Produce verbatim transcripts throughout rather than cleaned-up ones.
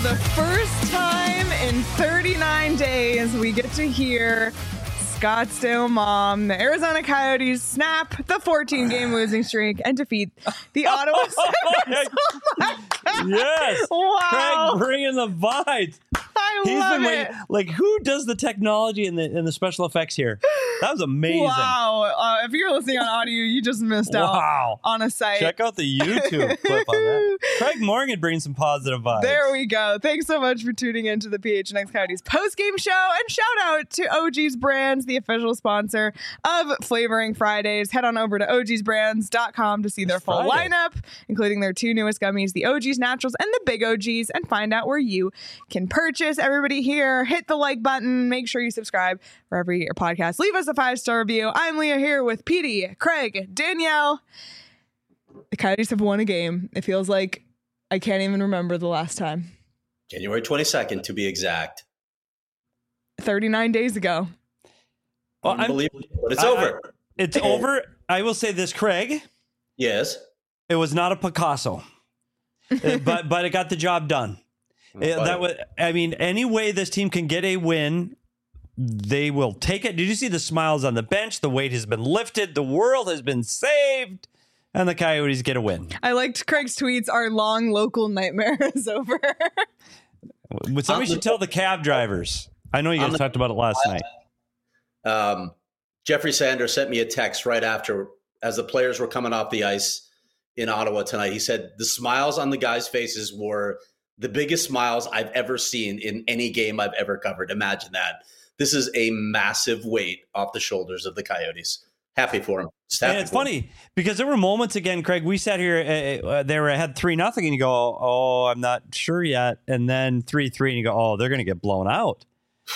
the first time in thirty-nine days, we get to hear Scottsdale Mom, the Arizona Coyotes, snap the fourteen-game losing streak and defeat the Ottawa Senators. Oh yes. Wow. Craig bringing the vibes. I He's love been it. waiting. Like, who does the technology and the and the special effects here? That was amazing. Wow. Uh, if you're listening on audio, you just missed out Wow. on a site. Check out the YouTube clip on that. Craig Morgan bringing some positive vibes. There we go. Thanks so much for tuning in to the P H N X Coyotes post-game show. And shout out to O G's Brands, the official sponsor of Flavoring Fridays. Head on over to O Gs brands dot com to see their It's full Friday. lineup, including their two newest gummies, the O G's Naturals and the Big O Gs, and find out where you can purchase. Everybody here, hit the like button. Make sure you subscribe wherever you get your podcast. Leave us a five-star review. I'm Leah here with Petey, Craig, Danielle. The Coyotes have won a game. It feels like I can't even remember the last time. January twenty-second, to be exact. thirty-nine days ago. Well, I'm- Unbelievable, but it's I- over. I- it's over. I will say this, Craig. Yes. It was not a Picasso, Uh, but but it got the job done. It- But- that was. I mean, any way this team can get a win, they will take it. Did you see the smiles on the bench? The weight has been lifted. The world has been saved, and the Coyotes get a win. I liked Craig's tweets. Our long local nightmare is over. Somebody should tell the cab drivers. I know you guys the- talked about it last night. Um, Jeffrey Sanders sent me a text right after, as the players were coming off the ice in Ottawa tonight. He said the smiles on the guys' faces were the biggest smiles I've ever seen in any game I've ever covered. Imagine that. This is a massive weight off the shoulders of the Coyotes. Happy for him. Just happy And it's for him. funny because there were moments again, Craig. We sat here, uh, uh, they were ahead three nothing, and you go, "Oh, I'm not sure yet." And then three three, and you go, "Oh, they're going to get blown out."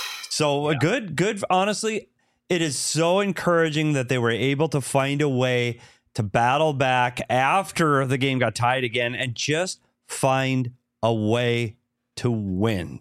So yeah. good, good. Honestly, it is so encouraging that they were able to find a way to battle back after the game got tied again, and just find a way to win.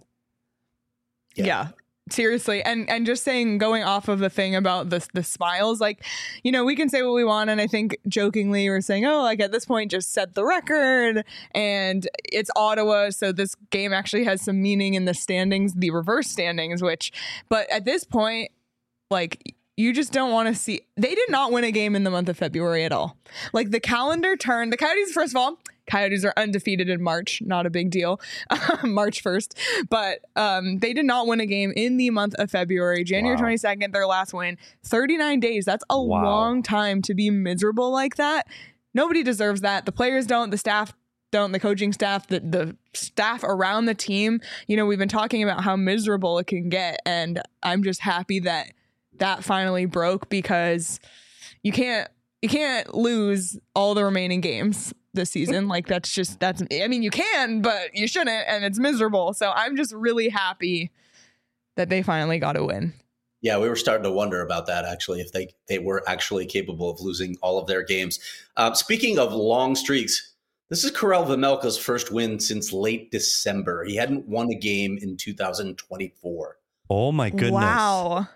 Yeah. yeah. Seriously. And and just saying, going off of the thing about the, the smiles, like, you know, we can say what we want. And I think jokingly we're saying, oh, like at this point, just set the record. And it's Ottawa. So this game actually has some meaning in the standings, the reverse standings, which, but at this point, like, you just don't want to see. They did not win a game in the month of February at all. Like the calendar turned. The Coyotes, first of all, Coyotes are undefeated in March. Not a big deal. March first. But um, they did not win a game in the month of February. January wow. twenty-second, their last win. thirty-nine days. That's a wow. long time to be miserable like that. Nobody deserves that. The players don't. The staff don't. The coaching staff, the, the staff around the team. You know, we've been talking about how miserable it can get. And I'm just happy that that finally broke, because you can't you can't lose all the remaining games this season. Like that's just that's I mean you can, but you shouldn't, and it's miserable. So I'm just really happy that they finally got a win. Yeah, we were starting to wonder about that, actually, if they they were actually capable of losing all of their games. Um, speaking of long streaks, this is Karel Vejmelka's first win since late December. He hadn't won a game in two thousand twenty-four. Oh my goodness. Wow.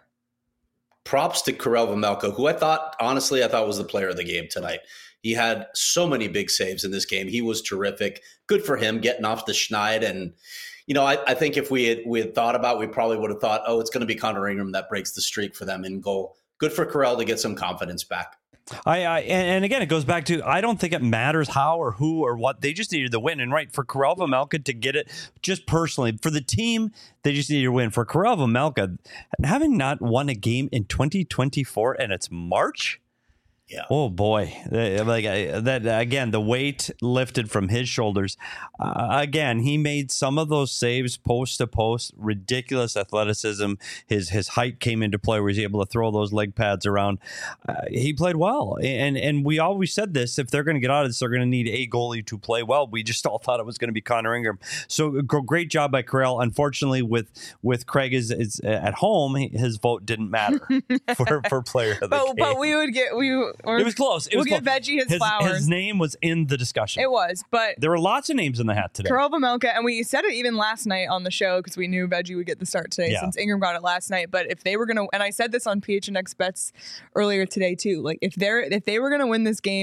Props to Karel Vejmelka, who I thought, honestly, I thought was the player of the game tonight. He had so many big saves in this game. He was terrific. Good for him getting off the schneid. And, you know, I, I think if we had, we had thought about, we probably would have thought, oh, it's going to be Connor Ingram that breaks the streak for them in goal. Good for Karel to get some confidence back. I, I and, and again, it goes back to, I don't think it matters how or who or what. They just needed the win. And right, for Karel Vejmelka to get it, just personally, for the team, they just needed to win. For Karel Vejmelka, having not won a game in twenty twenty-four and it's March. Yeah. Oh boy! Like that again, the weight lifted from his shoulders. Uh, again, he made some of those saves post to post. Ridiculous athleticism. His his height came into play, where he's able to throw those leg pads around. Uh, he played well, and and we always said this: if they're going to get out of this, they're going to need a goalie to play well. We just all thought it was going to be Connor Ingram. So great job by Karel. Unfortunately, with with Craig is, is at home, his vote didn't matter for for player of the but, game. But we would get we. Or it was close. It we'll was give close. Veggie his, his flowers. His name was in the discussion. It was, but there were lots of names in the hat today. Karel Vejmelka, and we said it even last night on the show because we knew Veggie would get the start today Yeah. since Ingram got it last night. But if they were gonna, and I said this on P H N X Bets earlier today too, like if they're if they were gonna win this game,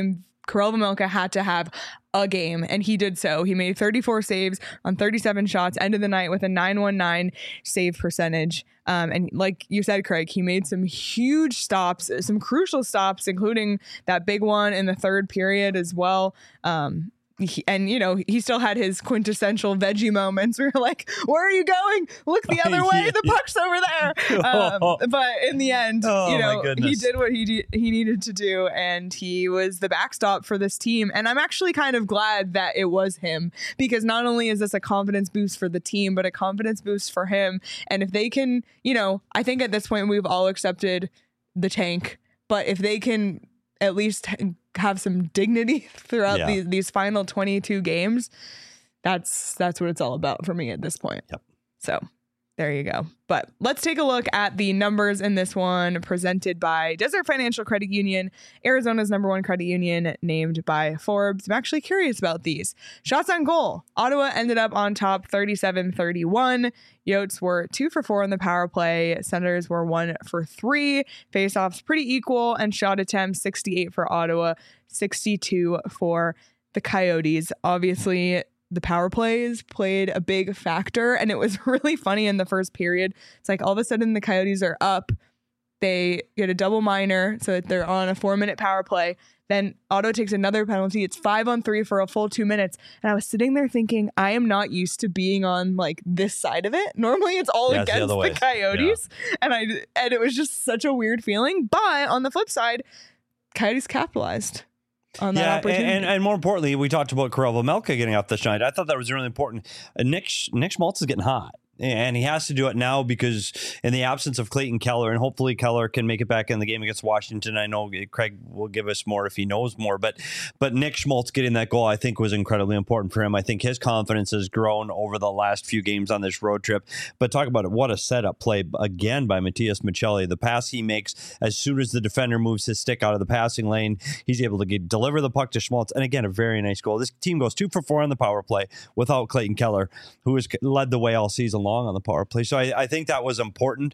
Karel Vejmelka had to have a game, and he did so. He made thirty-four saves on thirty-seven shots, ended the night with a nine one nine save percentage. Um, and like you said, Craig, he made some huge stops, some crucial stops, including that big one in the third period as well. Um, He, and you know, he still had his quintessential veggie moments where you're like, where are you going? Look the other way, the puck's over there. Um, but in the end, oh, you know, he did what he de- he needed to do, and he was the backstop for this team. And I'm actually kind of glad that it was him, because not only is this a confidence boost for the team, but a confidence boost for him. And if they can, you know, I think at this point we've all accepted the tank, but if they can at least have some dignity throughout yeah. these these final twenty-two games, that's that's what it's all about for me at this point. Yep. So there you go. But let's take a look at the numbers in this one, presented by Desert Financial Credit Union, Arizona's number one credit union, named by Forbes. I'm actually curious about these. Shots on goal. Ottawa ended up on top thirty-seven thirty-one. Yotes were two for four on the power play. Senators were one for three. Faceoffs pretty equal, and shot attempts sixty-eight for Ottawa, sixty-two for the Coyotes. Obviously, the power plays played a big factor, and it was really funny in the first period. It's like all of a sudden the Coyotes are up. They get a double minor, so that they're on a four-minute power play. Then Ottawa takes another penalty. It's five on three for a full two minutes. And I was sitting there thinking, I am not used to being on like this side of it. Normally it's all yeah, against the, the Coyotes. Yeah. And I and it was just such a weird feeling. But on the flip side, Coyotes capitalized on that yeah, opportunity. And, and more importantly, we talked about Karel Vejmelka getting off the night. I thought that was really important. Uh, Nick Nick Schmaltz is getting hot. And he has to do it now because in the absence of Clayton Keller, and hopefully Keller can make it back in the game against Washington. I know Craig will give us more if he knows more, but but Nick Schmaltz getting that goal, I think, was incredibly important for him. I think his confidence has grown over the last few games on this road trip. But talk about it, what a setup play again by Matias Maccelli. The pass he makes as soon as the defender moves his stick out of the passing lane, he's able to get, deliver the puck to Schmaltz. And again, a very nice goal. This team goes two for four on the power play without Clayton Keller, who has led the way all season long on the power play. So I, I think that was important.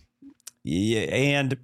Yeah, and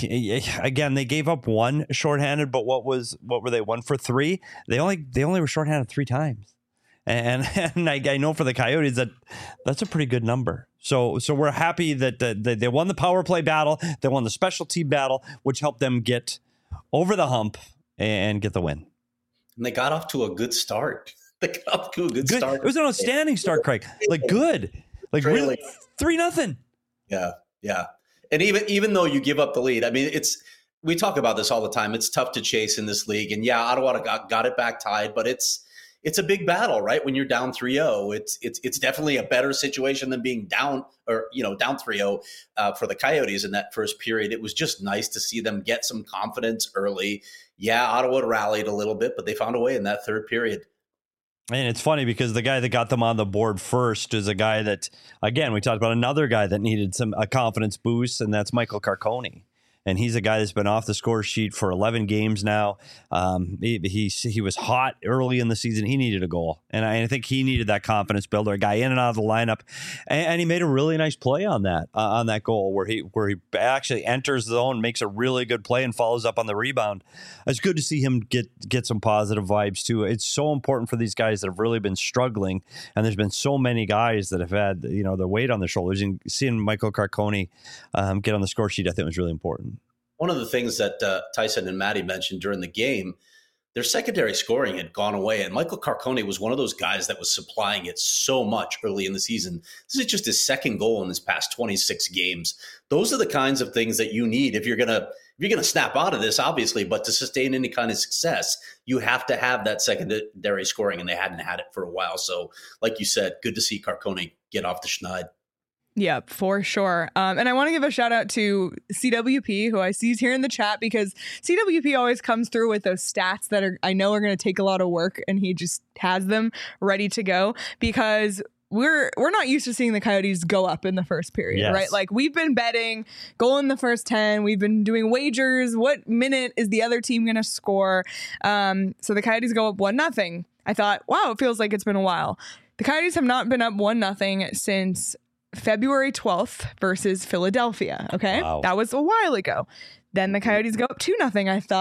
again, they gave up one shorthanded, but what was what were they? One for three? They only they only were shorthanded three times. And and I, I know for the Coyotes that that's a pretty good number. So so we're happy that, that, that they won the power play battle, they won the special team battle, which helped them get over the hump and get the win. And they got off to a good start. They got off to a good, good. start. It was an outstanding start, Craig. Like good. Like Trailing. really, three nothing. Yeah, yeah. And even even though you give up the lead, I mean, it's we talk about this all the time. It's tough to chase in this league, and yeah, Ottawa got got it back tied, but it's it's a big battle, right? When you're down three oh, it's it's it's definitely a better situation than being down or you know down three oh uh, for the Coyotes in that first period. It was just nice to see them get some confidence early. Yeah, Ottawa rallied a little bit, but they found a way in that third period. And it's funny because the guy that got them on the board first is a guy that, again, we talked about another guy that needed some a confidence boost, and that's Michael Carcone. And he's a guy that's been off the score sheet for eleven games now. Um, he, he he was hot early in the season. He needed a goal. And I, I think he needed that confidence builder, a guy in and out of the lineup. And, and he made a really nice play on that uh, on that goal where he where he actually enters the zone, makes a really good play, and follows up on the rebound. It's good to see him get, get some positive vibes, too. It's so important for these guys that have really been struggling. And there's been so many guys that have had, you know, the weight on their shoulders. And seeing Michael Carcone um, get on the score sheet, I think was really important. One of the things that uh, Tyson and Maddie mentioned during the game, their secondary scoring had gone away. And Michael Carcone was one of those guys that was supplying it so much early in the season. This is just his second goal in his past twenty-six games. Those are the kinds of things that you need if you're going to if you're going to snap out of this, obviously. But to sustain any kind of success, you have to have that secondary scoring, and they hadn't had it for a while. So like you said, good to see Carcone get off the schneid. Yeah, for sure. Um, and I want to give a shout out to C W P, who I see is here in the chat, because C W P always comes through with those stats that are I know are going to take a lot of work, and he just has them ready to go, because we're we're not used to seeing the Coyotes go up in the first period, yes. right? Like, we've been betting goal in the first ten. We've been doing wagers. What minute is the other team going to score? Um, so the Coyotes go up one nothing. I thought, wow, it feels like it's been a while. The Coyotes have not been up one nothing since February twelfth versus Philadelphia. Okay. Wow. That was a while ago. Then the Coyotes go up two nothing. I thought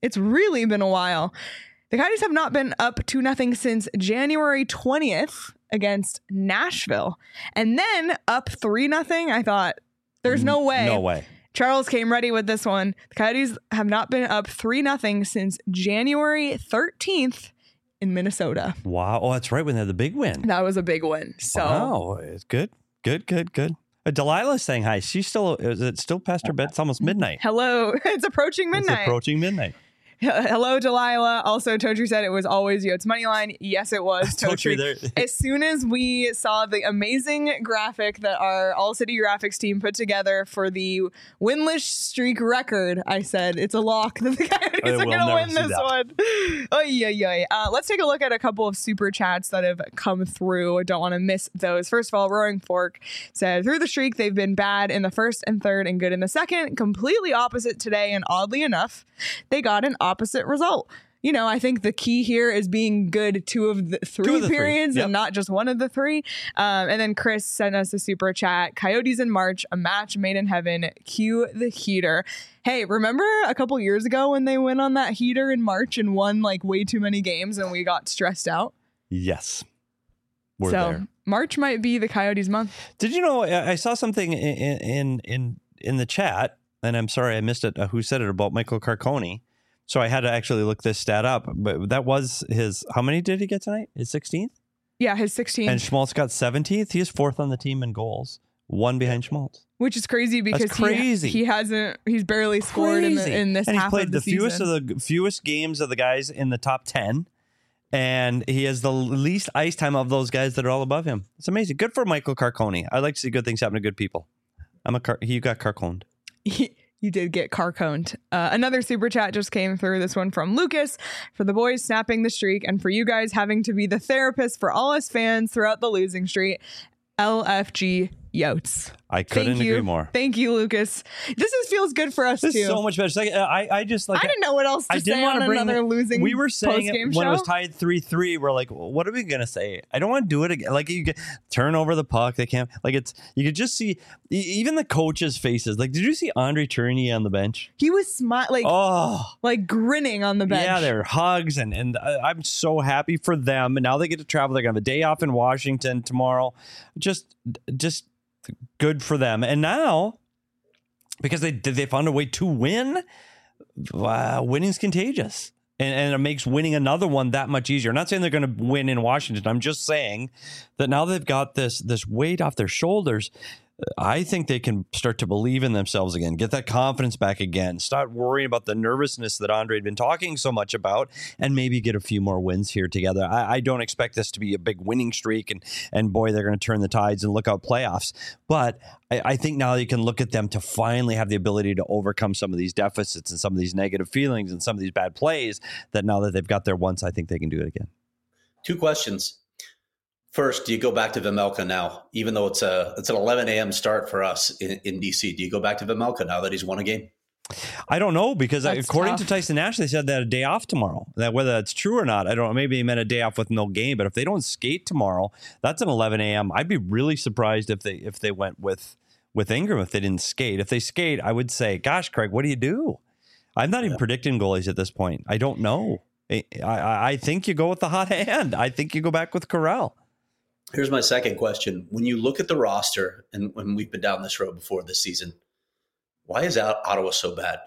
It's really been a while. The Coyotes have not been up two nothing since January twentieth against Nashville. And then up three nothing. I thought, there's no way. No way. Charles came ready with this one. The Coyotes have not been up three nothing since January thirteenth in Minnesota. Wow. Oh, that's right, when they had the big win. That was a big win. So wow. It's good. Good, good, good. Uh, Delilah's saying hi. She's still, is it still past her bed? It's almost midnight. Hello. It's approaching midnight. It's approaching midnight. Hello, Delilah. Also, Totri said it was always Yotes Moneyline. Yes, it was. Totri. As soon as we saw the amazing graphic that our All City Graphics team put together for the winless streak record, I said it's a lock that the Coyotes are going to win this that. one. Oy, oy, oy. Uh, let's take a look at a couple of super chats that have come through. I don't want to miss those. First of all, Roaring Fork said, through the streak, they've been bad in the first and third and good in the second. Completely opposite today, and oddly enough, they got an opposite result. You know, I think the key here is being good two of the three of the periods three. Yep. and not just one of the three. Um, and then Chris sent us a super chat. Coyotes in March, a match made in heaven. Cue the heater. Hey, remember a couple years ago when they went on that heater in March and won like way too many games and we got stressed out? Yes. We're so there. March might be the Coyotes month. Did you know, I saw something in in in, in the chat, and I'm sorry I missed it, uh, who said it, about Michael Carcone. So I had to actually look this stat up, but that was his, how many did he get tonight? His sixteenth? Yeah, his sixteenth. And Schmaltz got seventeenth. He is fourth on the team in goals, one behind Schmaltz. Which is crazy because That's crazy. He, he hasn't, he's barely scored in, the, in this and half of the season. And he's played the fewest of the fewest games of the guys in the top ten. And he has the least ice time of those guys that are all above him. It's amazing. Good for Michael Carcone. I like to see good things happen to good people. I'm a car- he got Carconed. You did get car-coned. Uh, another super chat just came through. This one from Lucas. For the boys snapping the streak and for you guys having to be the therapist for all us fans throughout the losing streak. L F G Yotes. I couldn't Thank you. agree more. Thank you, Lucas. This is, feels good for us this too. Is so much better. Like, I, I just like. I didn't know what else to I say didn't on bring another the, losing. We were saying it when show? it was tied three three. We're like, what are we gonna say? I don't want to do it again. Like you get, turn over the puck. They can't. Like it's. You could just see even the coaches' faces. Like, did you see Andre Tourigny on the bench? He was smiling, like oh, like grinning on the bench. Yeah, they're hugs and and I'm so happy for them. And now they get to travel. They're gonna have a day off in Washington tomorrow. Just, just. Good for them. And now, because they they found a way to win, uh, winning's contagious. And, and it makes winning another one that much easier. I'm not saying they're going to win in Washington. I'm just saying that now they've got this this weight off their shoulders. I think they can start to believe in themselves again, get that confidence back again, start worrying about the nervousness that Andre had been talking so much about, and maybe get a few more wins here together. I, I don't expect this to be a big winning streak, and and boy, they're going to turn the tides and look out playoffs. But I, I think now you can look at them to finally have the ability to overcome some of these deficits and some of these negative feelings and some of these bad plays, that now that they've got there once, I think they can do it again. Two questions. First, do you go back to Vejmelka now, even though it's a it's an eleven a.m. start for us in, in D C? Do you go back to Vejmelka now that he's won a game? I don't know, because That's according tough. to Tyson Nash, they said they had a day off tomorrow. That whether that's true or not, I don't know. Maybe he meant a day off with no game. But if they don't skate tomorrow, that's an eleven a.m. I'd be really surprised if they if they went with with Ingram if they didn't skate. If they skate, I would say, gosh, Craig, what do you do? I'm not even Yeah. predicting goalies at this point. I don't know. I, I I think you go with the hot hand. I think you go back with Corral. Here's my second question. When you look at the roster, and when we've been down this road before this season, why is Ottawa so bad?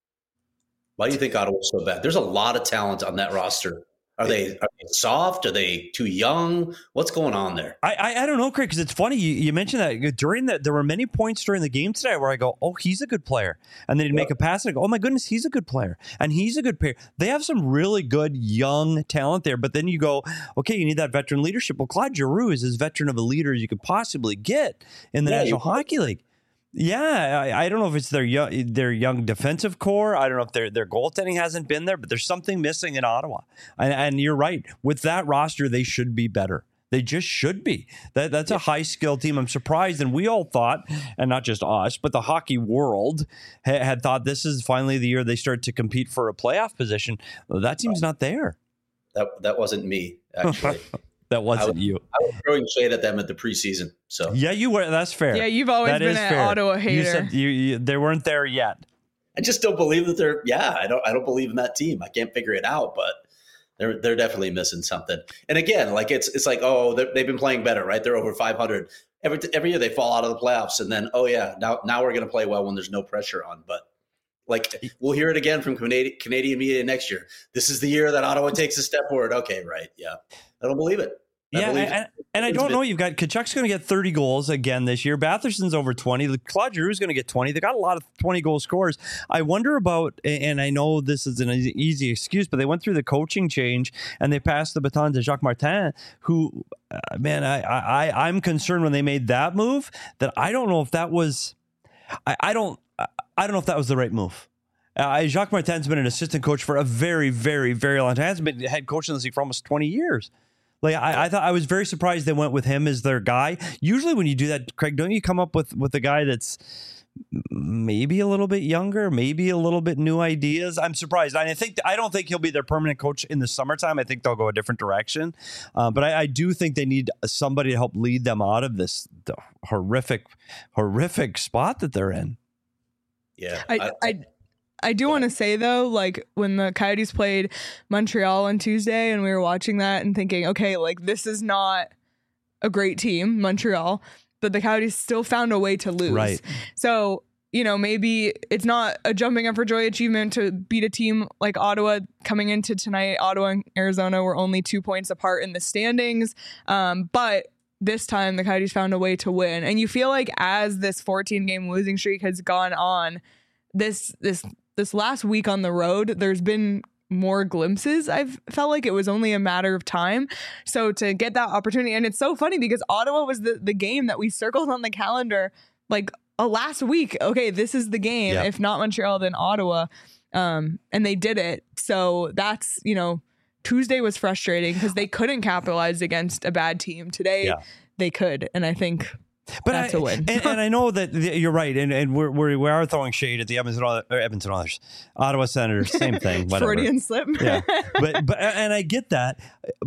Why do you think Ottawa's so bad? There's a lot of talent on that roster. Are they, are they soft? Are they too young? What's going on there? I I, I don't know, Craig, because it's funny. You, you mentioned that during that, there were many points during the game today where I go, oh, he's a good player. And then he'd make a pass and I go, oh my goodness, he's a good player. And he's a good player. They have some really good young talent there. But then you go, okay, you need that veteran leadership. Well, Claude Giroux is as veteran of a leader as you could possibly get in the Yeah, National you- Hockey League. Yeah, I, I don't know if it's their young, their young defensive core. I don't know if their their goaltending hasn't been there, but there's something missing in Ottawa. And, and you're right. With that roster, they should be better. They just should be. That That's a high-skilled team. I'm surprised. And we all thought, and not just us, but the hockey world ha- had thought this is finally the year they start to compete for a playoff position. Well, that team's not there. That that wasn't me, actually. That wasn't I was, you. I was throwing shade at them at the preseason. So Yeah, you were. That's fair. Yeah, you've always That been is an fair. Ottawa hater. You said you, you, they weren't there yet. I just don't believe that they're. Yeah, I don't. I don't believe in that team. I can't figure it out, but they're they're definitely missing something. And again, like it's it's like oh they've been playing better, right? They're over five hundred every every year. They fall out of the playoffs, and then oh yeah, now now we're going to play well when there's no pressure on. But like we'll hear it again from Canadian Canadian media next year. This is the year that Ottawa takes a step forward. Okay, right? Yeah, I don't believe it. I yeah, believe and, it. and I don't know. You've got Tkachuk's going to get thirty goals again this year. Batherson's over twenty. Claude Giroux's going to get twenty. They got a lot of twenty goal scorers. I wonder about, and I know this is an easy excuse, but they went through the coaching change and they passed the baton to Jacques Martin, who, uh, man, I, I, I'm concerned when they made that move that I don't know if that was, I, I don't, I don't know if that was the right move. Uh, Jacques Martin's been an assistant coach for a very, very, very long time. He hasn't been head coach in the league for almost twenty years. Like I, I thought, I was very surprised they went with him as their guy. Usually, when you do that, Craig, don't you come up with with a guy that's maybe a little bit younger, maybe a little bit new ideas? I'm surprised. I think I don't think he'll be their permanent coach in the summertime. I think they'll go a different direction. Uh, but I, I do think they need somebody to help lead them out of this horrific, horrific spot that they're in. Yeah, I. I, I I do want to say, though, like when the Coyotes played Montreal on Tuesday and we were watching that and thinking, okay, like this is not a great team, Montreal, but the Coyotes still found a way to lose. Right. So, you know, maybe it's not a jumping up for joy achievement to beat a team like Ottawa coming into tonight. Ottawa and Arizona were only two points apart in the standings. Um, but this time the Coyotes found a way to win. And you feel like as this fourteen game losing streak has gone on, this this This last week on the road, there's been more glimpses. I've felt like it was only a matter of time. So to get that opportunity, and it's so funny because Ottawa was the, the game that we circled on the calendar like a last week. Okay, this is the game. Yep. If not Montreal, then Ottawa. Um, and they did it. So that's, you know, Tuesday was frustrating because they couldn't capitalize against a bad team. Today, yeah. they could. And I think... But that's I, a win. and, and I know that the, you're right, and, and we're, we're we are throwing shade at the Edmonton or Edmonton Oilers, Ottawa Senators, same thing. Whatever. Freudian slip. Yeah, but but and I get that,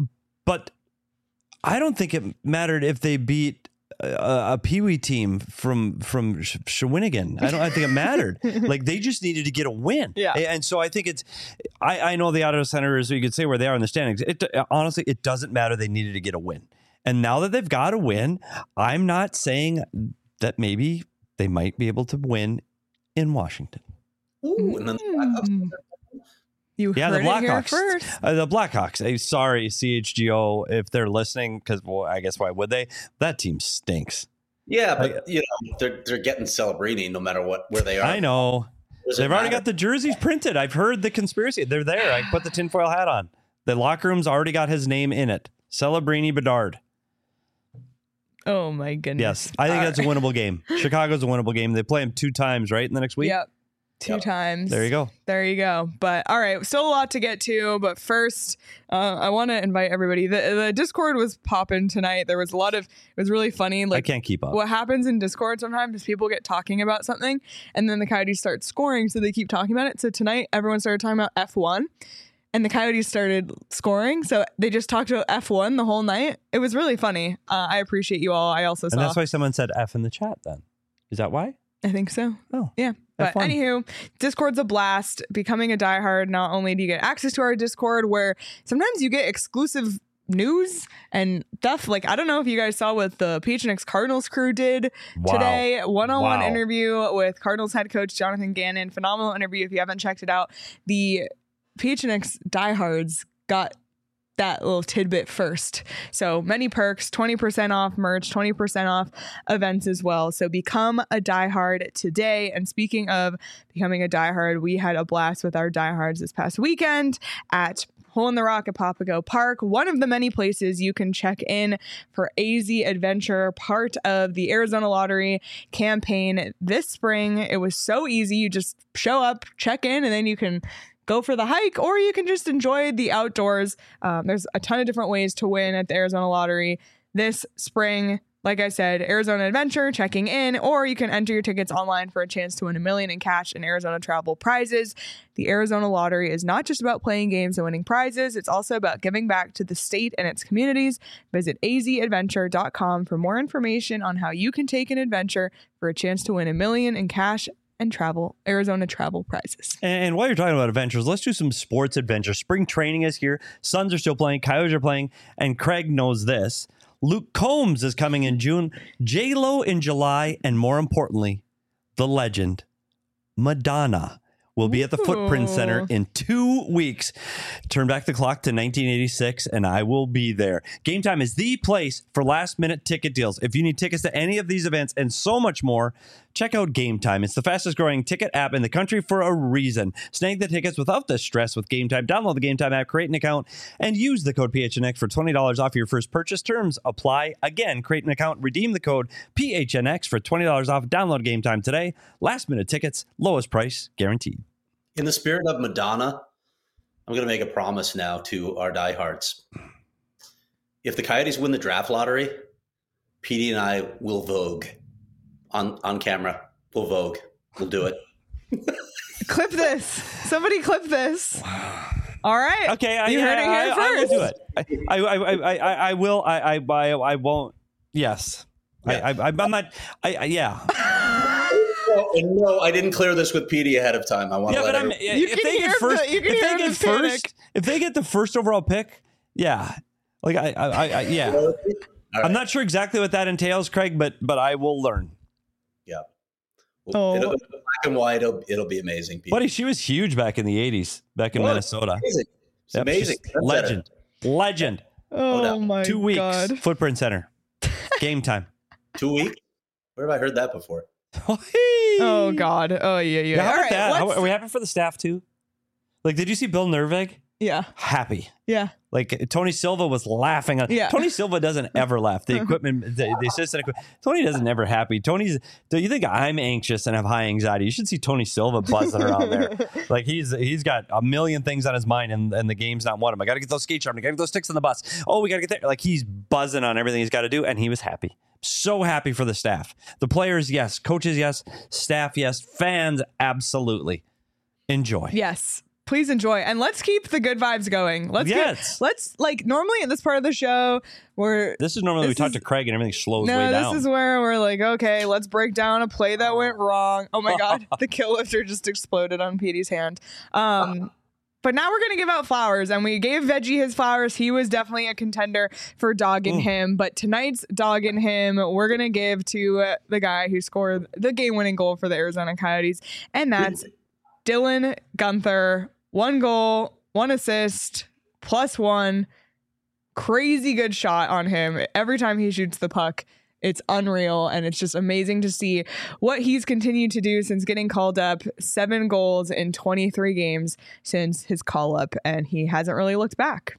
but I don't think it mattered if they beat a, a Pee Wee team from from Shawinigan. I don't. I think it mattered. Like they just needed to get a win. Yeah, and so I think it's. I I know the Ottawa Senators. You could say where they are in the standings. It honestly, it doesn't matter. They needed to get a win. And now that they've got a win, I'm not saying that maybe they might be able to win in Washington. Ooh, and then the Blackhawks. You yeah, heard the Blackhawks. It here first. Uh, the Blackhawks. Hey, sorry, C H G O, if they're listening, because well, I guess why would they? That team stinks. Yeah, but like, you know they're they're getting Celebrini no matter what where they are. I know. They've already got the jerseys printed. I've heard the conspiracy. They're there. I put the tinfoil hat on. The locker room's already got his name in it. Celebrini Bedard. Oh my goodness. Yes, I think that's a winnable game. Chicago's a winnable game. They play them two times, right, in the next week? Yep. Two yep. times. There you go. There you go. But all right, still a lot to get to. But first, uh, I want to invite everybody. The, the Discord was popping tonight. There was a lot of, it was really funny. Like, I can't keep up. What happens in Discord sometimes is people get talking about something and then the Coyotes start scoring. So they keep talking about it. So tonight, everyone started talking about F one. And the Coyotes started scoring, so they just talked about F one the whole night. It was really funny. Uh, I appreciate you all. I also saw. And that's why someone said F in the chat then. Is that why? I think so. Oh. Yeah. But anywho, Discord's a blast. Becoming a diehard, not only do you get access to our Discord, where sometimes you get exclusive news and stuff. Like, I don't know if you guys saw what the P H N X Cardinals crew did wow. today. One-on-one wow. interview with Cardinals head coach Jonathan Gannon. Phenomenal interview if you haven't checked it out. The P H N X diehards got that little tidbit first. So many perks, twenty percent off merch, twenty percent off events as well. So become a diehard today. And speaking of becoming a diehard, we had a blast with our diehards this past weekend at Hole in the Rock at Papago Park, one of the many places you can check in for A Z Adventure, part of the Arizona Lottery campaign this spring. It was so easy. You just show up, check in, and then you can go for the hike, or you can just enjoy the outdoors. Um, there's a ton of different ways to win at the Arizona Lottery this spring. Like I said, Arizona Adventure, checking in, or you can enter your tickets online for a chance to win a million in cash and Arizona travel prizes. The Arizona Lottery is not just about playing games and winning prizes. It's also about giving back to the state and its communities. Visit a z adventure dot com for more information on how you can take an adventure for a chance to win a million in cash and travel, Arizona travel prizes. And while you're talking about adventures, let's do some sports adventures. Spring training is here. Suns are still playing. Coyotes are playing. And Craig knows this. Luke Combs is coming in June. J-Lo in July. And more importantly, the legend, Madonna, will be at the Footprint Center in two weeks. Turn back the clock to nineteen eighty-six, and I will be there. Game Time is the place for last-minute ticket deals. If you need tickets to any of these events and so much more, check out Game Time. It's the fastest-growing ticket app in the country for a reason. Snag the tickets without the stress with Game Time. Download the Game Time app, create an account, and use the code P H N X for twenty dollars off your first purchase. Terms apply. Again, create an account, redeem the code P H N X for twenty dollars off. Download Game Time today. Last-minute tickets, lowest price guaranteed. In the spirit of Madonna, I'm going to make a promise now to our diehards. If the Coyotes win the draft lottery, Petey and I will Vogue on, on camera. We'll Vogue. We'll do it. Clip this. Somebody clip this. All right. Okay. I, you yeah, heard it here I, first. I will do it. I, I, I, I, I will. I, I, I, I won't. Yes. Yeah. I, I, I'm not. I, I yeah. No, no, I didn't clear this with Petey ahead of time. I want yeah, to let but I'm, everyone... if can they hear get first, the- you can if hear they get the first, panic. if they get the first overall pick, yeah, like I, I, I, I yeah, All I'm right. not sure exactly what that entails, Craig, but but I will learn. Yeah. Oh. It'll, it'll, black and white, it'll, it'll be amazing. Petey. Buddy, she was huge back in the eighties, back in Well, Minnesota. Amazing. It's Yep, amazing. she's That's legend, legend. Oh, no. my Two weeks, God. Footprint Center, Game Time. it. Two weeks? Where have I heard that before? Oh, God. Oh, yeah, yeah. Yeah, how All about right, that? How, let's- are we happy for the staff too? Like, did you see Bill Nervig? Yeah. Happy. Yeah. Like Tony Silva was laughing. On, Yeah. Tony Silva doesn't ever laugh. The equipment, the, the assistant equipment. Tony doesn't ever happy. Tony's. Do you think I'm anxious and have high anxiety? You should see Tony Silva buzzing around there. Like he's he's got a million things on his mind, and, and the game's not one of them. I got to get those skate sharpened. I got to get those sticks on the bus. Oh, we got to get there. Like he's buzzing on everything he's got to do, and he was happy. So happy for the staff, the players, yes, coaches, yes, staff, yes, fans, absolutely. Enjoy. Yes. Please enjoy. And let's keep the good vibes going. Let's Yes. get, let's like normally at this part of the show where This is normally This we talk is- to Craig and everything slows no, way this down. is where we're like, okay, let's break down a play that went wrong. Oh my God, the kill lifter just exploded on Petey's hand. Um, but now we're gonna give out flowers, and we gave Veggie his flowers. He was definitely a contender for dogging Mm. him, but tonight's dogging him, we're gonna give to uh, the guy who scored the game-winning goal for the Arizona Coyotes, and that's Dylan Guenther. One goal, one assist, plus one. Crazy good shot on him. Every time he shoots the puck, it's unreal. And it's just amazing to see what he's continued to do since getting called up. Seven goals in twenty-three games since his call up. And he hasn't really looked back.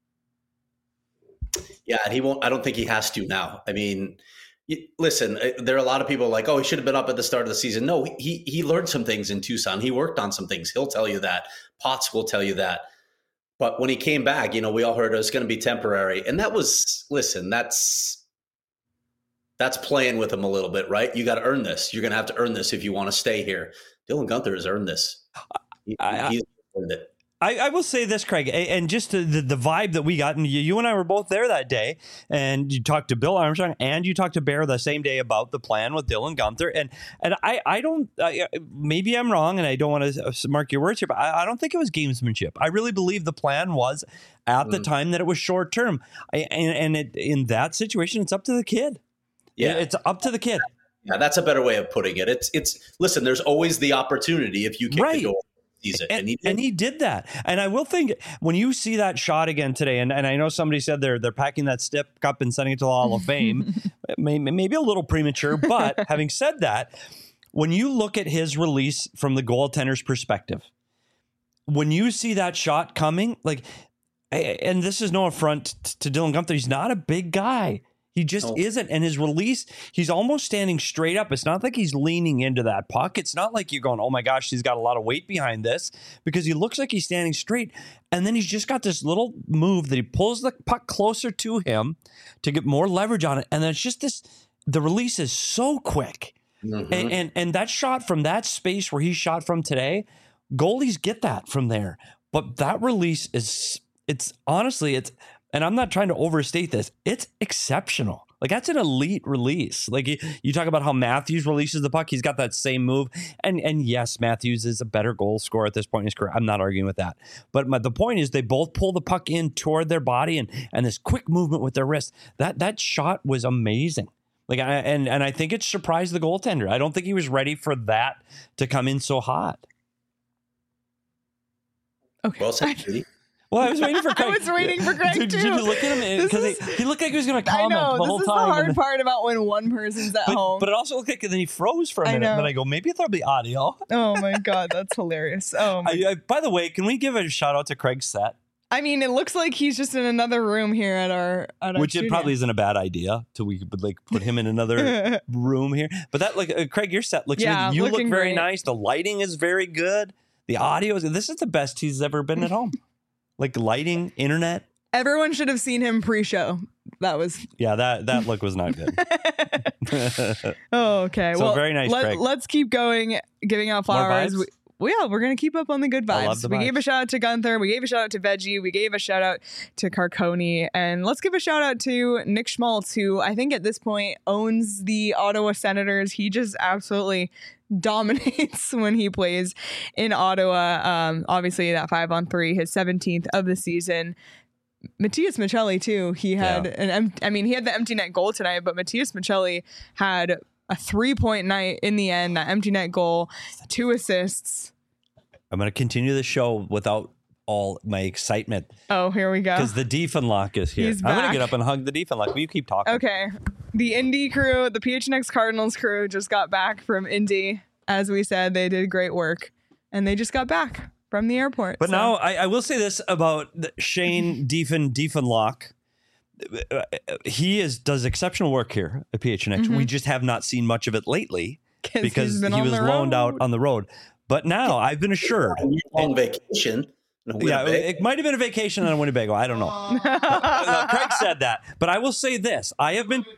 Yeah, and he won't. I don't think he has to now. I mean, y- listen, uh, there are a lot of people like, oh, he should have been up at the start of the season. No, he he learned some things in Tucson. He worked on some things. He'll tell you that. Potts will tell you that. But when he came back, you know, we all heard it was going to be temporary, and that was listen. That's that's playing with him a little bit, right? You got to earn this. You're going to have to earn this if you want to stay here. Dylan Guenther has earned this. He, I- he's earned it. I, I will say this, Craig, a- and just the, the, the vibe that we got, and you, you and I were both there that day, and you talked to Bill Armstrong and you talked to Bear the same day about the plan with Dylan Guenther, and and I, I don't, I, maybe I'm wrong, and I don't want to mark your words here, but I, I don't think it was gamesmanship. I really believe the plan was at mm. the time that it was short term, I, and, and it, in that situation, it's up to the kid. Yeah, it's up to the kid. Yeah, that's a better way of putting it. It's it's listen. There's always the opportunity if you kick right. the goal. It. And, and, he and he did that. And I will think when you see that shot again today, and, and I know somebody said they're they're packing that stick up and sending it to the Hall of Fame, maybe, maybe a little premature. But having said that, when you look at his release from the goaltender's perspective, when you see that shot coming, like, and this is no affront to Dylan Guenther, he's not a big guy. He just oh. isn't. And his release, he's almost standing straight up. It's not like he's leaning into that puck. It's not like you're going, oh my gosh, he's got a lot of weight behind this, because he looks like he's standing straight. And then he's just got this little move that he pulls the puck closer to him to get more leverage on it. And then it's just this, the release is so quick. Mm-hmm. And, and, and that shot from that space where he shot from today, goalies get that from there. But that release is, it's honestly, it's, and I'm not trying to overstate this, it's exceptional. Like, that's an elite release. Like, you, you talk about how Matthews releases the puck. He's got that same move. And and yes, Matthews is a better goal scorer at this point in his career. I'm not arguing with that. But my, the point is they both pull the puck in toward their body and and this quick movement with their wrist. That that shot was amazing. Like, I, and, and I think it surprised the goaltender. I don't think he was ready for that to come in so hot. Okay. Well said, Judy. Well, I was waiting for Craig. I was waiting for Craig, did, too. Did you look at him? Because he, he looked like he was going to comment I know, the whole this time. This is the hard then, part about when one person's at but, home. But it also looked like then he froze for a minute. And then I go, maybe there'll be audio. Oh, my God. That's hilarious. Oh, my I, I, By the way, can we give a shout out to Craig's set? I mean, it looks like he's just in another room here at our at our Which studio. It probably isn't a bad idea till we could like put him in another room here. But that like uh, Craig, your set looks yeah, good. You look very great. nice. The lighting is very good. The audio is this is the best he's ever been at home. Like lighting, internet. Everyone should have seen him pre-show. That was yeah. That that look was not good. Oh, okay. So well, very nice. Let, Craig. Let's keep going, giving out flowers. We, well, yeah, we're gonna keep up on the good I love vibes. the We vibes. gave a shout out to Gunther. We gave a shout out to Veggie. We gave a shout out to Carconi, and let's give a shout out to Nick Schmaltz, who I think at this point owns the Ottawa Senators. He just absolutely dominates when he plays in Ottawa. Um, obviously, that five on three, his seventeenth of the season. Matthias Michelli too. He had Yeah. an. Em- I mean, he had the empty net goal tonight, but Matthias Michelli had a three point night in the end. That empty net goal, two assists. I'm going to continue the show without all my excitement Oh, here we go. because the Diefenlock is here. He's I'm going back. to get up and hug the Diefenlock. Will you keep talking? Okay, the Indy crew, the P H N X Cardinals crew, just got back from Indy. As we said, they did great work, and they just got back from the airport. But so. now I, I will say this about the Shane Diefen Diefenlock. He is does exceptional work here at P H N X. Mhm. We just have not seen much of it lately because he's been he on was the loaned out road. on the road. But now I've been assured. On vacation. in Yeah, Winnipeg. it might have been a vacation on Winnebago. I don't know. No, Craig said that. But I will say this. I have been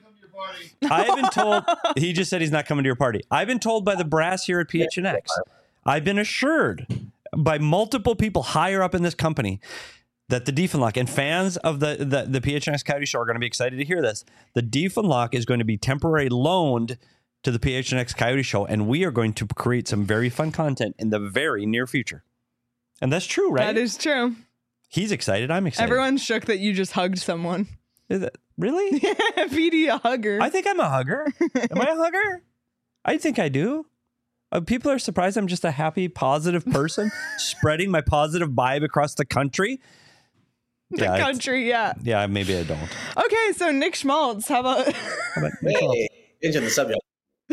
I have been told he just said he's not coming to your party. I've been told by the brass here at P H N X. I've been assured by multiple people higher up in this company that the Diefenlock and fans of the, the, the P H N X Coyote Show are going to be excited to hear this. The Diefenlock is going to be temporarily loaned to the P H N X Coyote Show, and we are going to create some very fun content in the very near future. And that's true, right? That is true. He's excited. I'm excited. Everyone's shook that you just hugged someone. Is it, really? P D a hugger. I think I'm a hugger. Am I a hugger? I think I do. Uh, people are surprised I'm just a happy, positive person spreading my positive vibe across the country. the yeah, it's- country, yeah. Yeah, maybe I don't. Okay, so Nick Schmaltz, how about? How about Nick Schmaltz? Hey, changing the subject.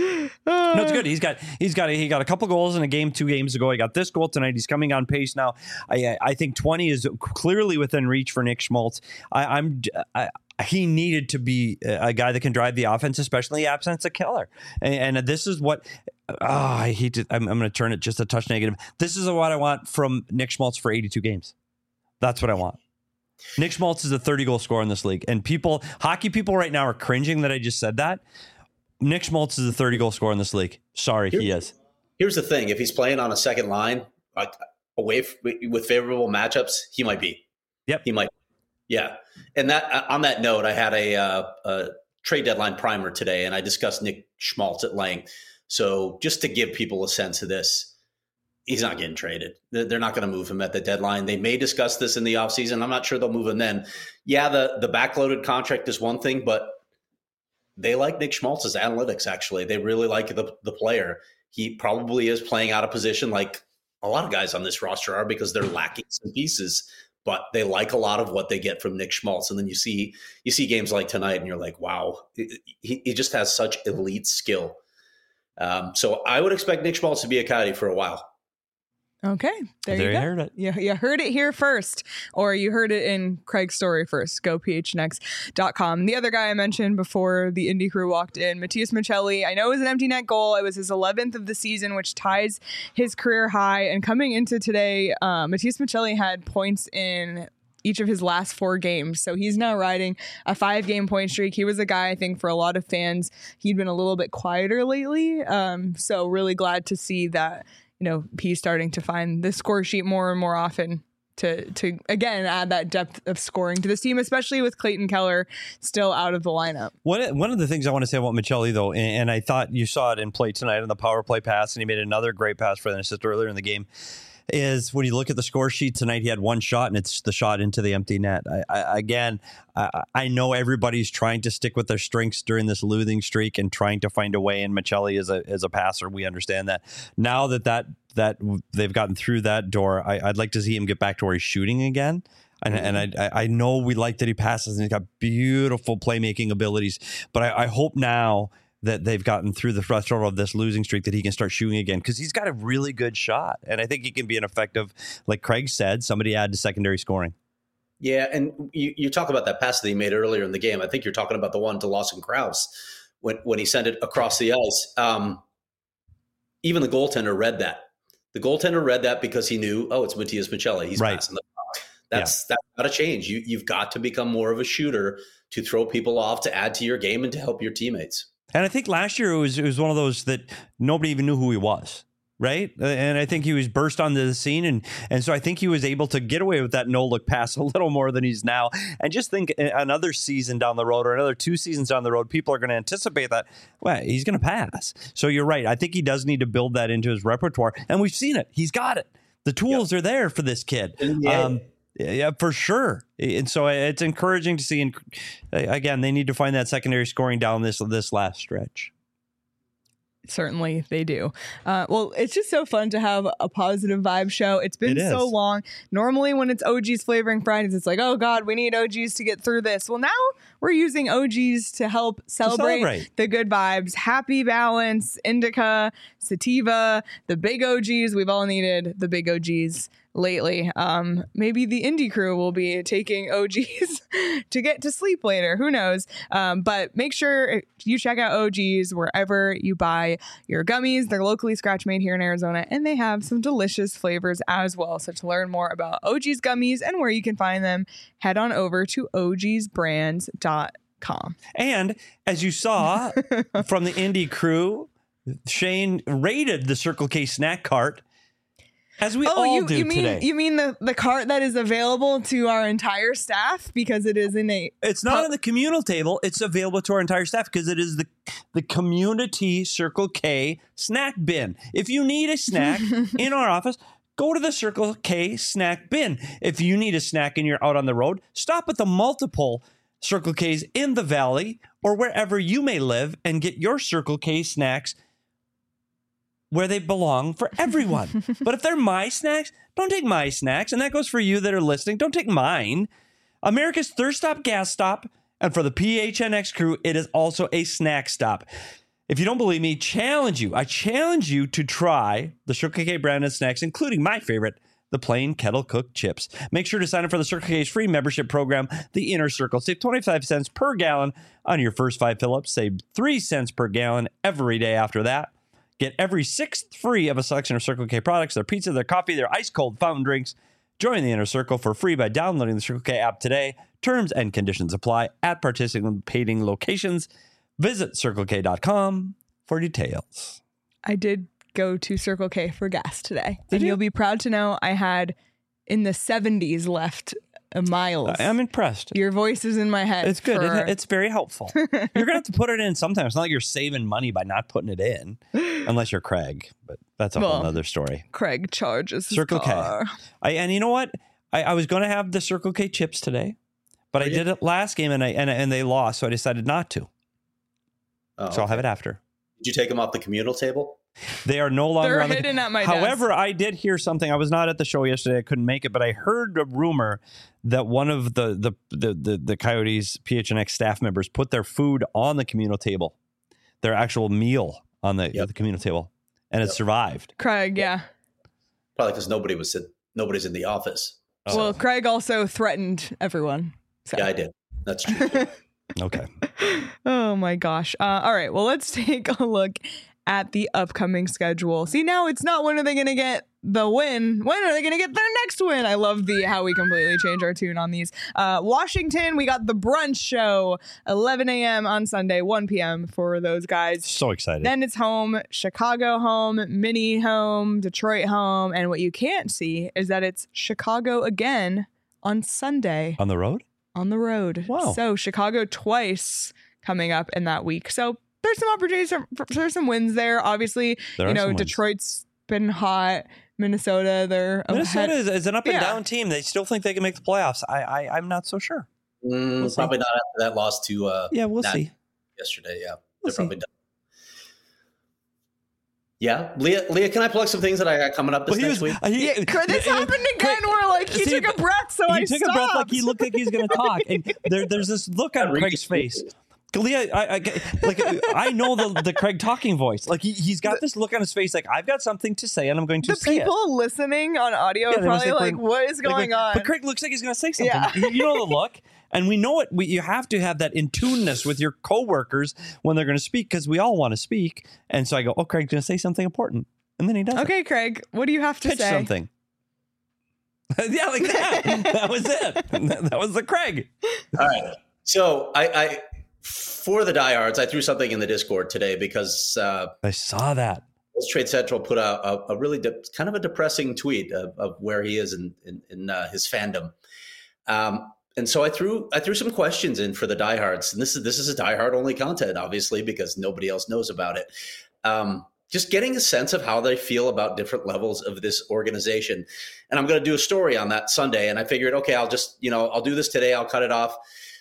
Uh, No, it's good. He's got he's got a, he got a couple goals in a game two games ago. He got this goal tonight. He's coming on pace now. I I think twenty is clearly within reach for Nick Schmaltz. I, I'm I, he needed to be a guy that can drive the offense, especially in the absence of Keller. And, and this is what oh, I hate to. I'm, I'm going to turn it just a touch negative. This is what I want from Nick Schmaltz for eighty-two games. That's what I want. Nick Schmaltz is a thirty goal scorer in this league, and people, hockey people right now are cringing that I just said that. Nick Schmaltz is a thirty goal scorer in this league. Sorry, Here- he is. Here's the thing: if he's playing on a second line, like away f- with favorable matchups, he might be. Yep. he might. Yeah, and that on that note, I had a, uh, a trade deadline primer today, and I discussed Nick Schmaltz at length. So just to give people a sense of this, he's not getting traded. They're they're not going to move him at the deadline. They may discuss this in the offseason. I'm not sure they'll move him then. Yeah, the the backloaded contract is one thing, but they like Nick Schmaltz's analytics, actually. They really like the, the player. He probably is playing out of position like a lot of guys on this roster are because they're lacking some pieces, but they like a lot of what they get from Nick Schmaltz. And then you see you see games like tonight and you're like, wow, he, he just has such elite skill. Um, so I would expect Nick Schmaltz to be a Coyote for a while. Okay, there, There you you go. heard it. You, you heard it here first, or you heard it in Craig's story first. Go P H N X dot com. The other guy I mentioned before the Indy crew walked in, Matthias Michelli. I know it was an empty net goal. It was his eleventh of the season, which ties his career high. And coming into today, uh, Matthias Michelli had points in each of his last four games. So he's now riding a five game point streak. He was a guy, I think, for a lot of fans, he'd been a little bit quieter lately. Um, so really glad to see that, you know, he's starting to find the score sheet more and more often to, to again, add that depth of scoring to this team, especially with Clayton Keller still out of the lineup. One, one of the things I want to say about Maccelli, though, and, and I thought you saw it in play tonight on the power play pass, and he made another great pass for the assist earlier in the game, is when you look at the score sheet tonight, he had one shot, and it's the shot into the empty net. I, I, again, I, I know everybody's trying to stick with their strengths during this losing streak and trying to find a way, and Maccelli is a, is a passer. We understand that. Now that, that, that they've gotten through that door, I, I'd like to see him get back to where he's shooting again. And, mm-hmm. and I, I know we like that he passes, and he's got beautiful playmaking abilities, but I, I hope now that they've gotten through the threshold of this losing streak that he can start shooting again, because he's got a really good shot. And I think he can be an effective, like Craig said, somebody add to secondary scoring. Yeah, and you, you talk about that pass that he made earlier in the game. I think you're talking about the one to Lawson Krause when, when he sent it across the ice. Um, even the goaltender read that. The goaltender read that because he knew, oh, it's Matias Maccelli. He's right. passing the puck. That's, yeah. that's got to change. You, you've got to become more of a shooter to throw people off, to add to your game, and to help your teammates. And I think last year it was it was one of those that nobody even knew who he was, right? And I think he was burst onto the scene, and and so I think he was able to get away with that no-look pass a little more than he's now. And just think another season down the road, or another two seasons down the road, people are going to anticipate that, well, he's going to pass. So you're right. I think he does need to build that into his repertoire, and we've seen it. He's got it. The tools yep. are there for this kid. Yeah. Um, Yeah, for sure. And so it's encouraging to see. And again, they need to find that secondary scoring down this this last stretch. Certainly they do. Uh, well, it's just so fun to have a positive vibe show. It's been it so long. Normally when it's O G's Flavoring Fridays, it's like, oh God, we need O Gs to get through this. Well, now we're using O Gs to help celebrate, to celebrate. the good vibes. Happy Balance, Indica, Sativa, the big O Gs. We've all needed the big O Gs lately. Um, maybe the indie crew will be taking O Gs to get to sleep later. Who knows? Um, but make sure you check out O Gs wherever you buy your gummies. They're locally scratch made here in Arizona, and they have some delicious flavors as well. So to learn more about O G's gummies and where you can find them, head on over to O Gs brands dot com. And as you saw from the indie crew, Shane raided the Circle K snack cart, as we oh, all you, do you mean, today. You mean the, the cart that is available to our entire staff because it is in a... It's not on the communal table. It's available to our entire staff because it is the, the community Circle K snack bin. If you need a snack in our office, go to the Circle K snack bin. If you need a snack and you're out on the road, stop at the multiple Circle K's in the valley or wherever you may live and get your Circle K snacks where they belong for everyone. But if they're my snacks, don't take my snacks. And that goes for you that are listening. Don't take mine. America's Thirst Stop gas stop. And for the P H N X crew, it is also a snack stop. If you don't believe me, challenge you. I challenge you to try the Circle K branded snacks, including my favorite, the plain kettle cooked chips. Make sure to sign up for the Circle K's free membership program, the Inner Circle. Save twenty-five cents per gallon on your first five fill-ups. Save three cents per gallon every day after that. Get every sixth free of a selection of Circle K products, their pizza, their coffee, their ice-cold fountain drinks. Join the Inner Circle for free by downloading the Circle K app today. Terms and conditions apply at participating locations. Visit circle k dot com for details. I did go to Circle K for gas today. Did and you? You'll be proud to know I had in the seventies left miles. I'm impressed. Your voice is in my head. It's good. For... It, it's very helpful. You're going to have to put it in sometimes. It's not like you're saving money by not putting it in, unless you're Craig, but that's a well, whole other story. Craig charges his Circle car. K. I, and you know what? I, I was going to have the Circle K chips today, but I did it last game and I and, and they lost, so I decided not to. Oh, so okay. I'll have it after. Did you take them off the communal table? They are no longer They're on the, hidden at my However, desk. I did hear something. I was not at the show yesterday. I couldn't make it, but I heard a rumor that one of the the the the, the Coyotes P H N X staff members put their food on the communal table, their actual meal on the, yep. the communal table, and yep. it survived. Craig, yeah. Probably because nobody was in, nobody's in the office. So. Well, Craig also threatened everyone. So. Yeah, I did. That's true. Okay. Oh my gosh. Uh, all right. Well, let's take a look at the upcoming schedule. See, now it's not when are they going to get the win? When are they going to get their next win? I love the how we completely change our tune on these. Uh, Washington, we got the brunch show, eleven a.m. on Sunday, one p.m. for those guys. So excited. Then it's home, Chicago home, Mini home, Detroit home. And what you can't see is that it's Chicago again on Sunday. On the road? On the road. Wow. So Chicago twice coming up in that week. So there's some opportunities. For, for, there's some wins there. Obviously, there you know, Detroit's been hot. Minnesota, they're Minnesota is, is an up and yeah. down team. They still think they can make the playoffs. I, I I'm not so sure. Mm, we'll probably not after that loss to uh, yeah, we'll see. Yesterday, yeah, We'll they're see. probably done. Yeah, Leah, Leah, can I plug some things that I got coming up this well, next was, week? Uh, he, yeah, this he, happened again Craig, where like he see, took a breath, so he I took stopped. a breath like he looked like he was going to talk, and there, there's this look on Craig's face. Leah, I, I, like I know the the Craig talking voice. Like he, he's got this look on his face, like I've got something to say, and I'm going to the say it. The people listening on audio yeah, are probably like, like, "What is going like, on?" But Craig looks like he's going to say something. Yeah. You know the look, and we know it. We, you have to have that in tuneness with your coworkers when they're going to speak, because we all want to speak. And so I go, "Oh, Craig's going to say something important," and then he does. Okay, it. Craig, what do you have to Pitch say? something. Yeah, like that. That was it. That was the Craig. All right. So I, I, for the diehards, I threw something in the Discord today because uh, I saw that. Trade Central put out a, a really de- kind of a depressing tweet of, of where he is in in, in uh, his fandom. Um, and so I threw I threw some questions in for the diehards, and this is this is a diehard only content, obviously, because nobody else knows about it. Um, just getting a sense of how they feel about different levels of this organization. And I'm going to do a story on that Sunday. And I figured, okay, I'll just, you know, I'll do this today. I'll cut it off.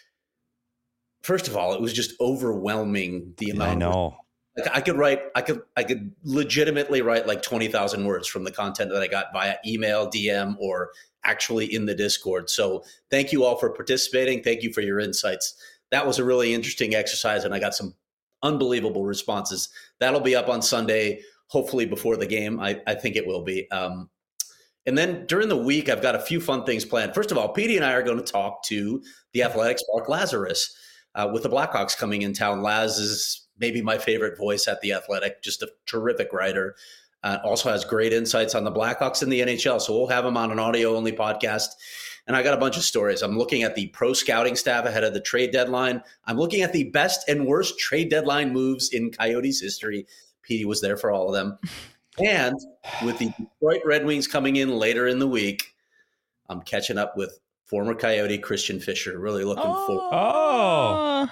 First of all, it was just overwhelming the amount. I know. Of, like I could write, I could, I could legitimately write like twenty thousand words from the content that I got via email, D M, or actually in the Discord. So thank you all for participating. Thank you for your insights. That was a really interesting exercise, and I got some unbelievable responses. That'll be up on Sunday, hopefully before the game. I, I think it will be. Um, and then during the week, I've got a few fun things planned. First of all, Petey and I are going to talk to the Athletics' Mark Lazarus uh, with the Blackhawks coming in town. Laz is maybe my favorite voice at the Athletic, just a terrific writer. Uh, also has great insights on the Blackhawks and the N H L. So we'll have him on an audio-only podcast. And I got a bunch of stories. I'm looking at the pro scouting staff ahead of the trade deadline. I'm looking at the best and worst trade deadline moves in Coyotes history. Petey was there for all of them. And with the Detroit Red Wings coming in later in the week, I'm catching up with former Coyote Christian Fischer. Really looking oh, forward. Oh,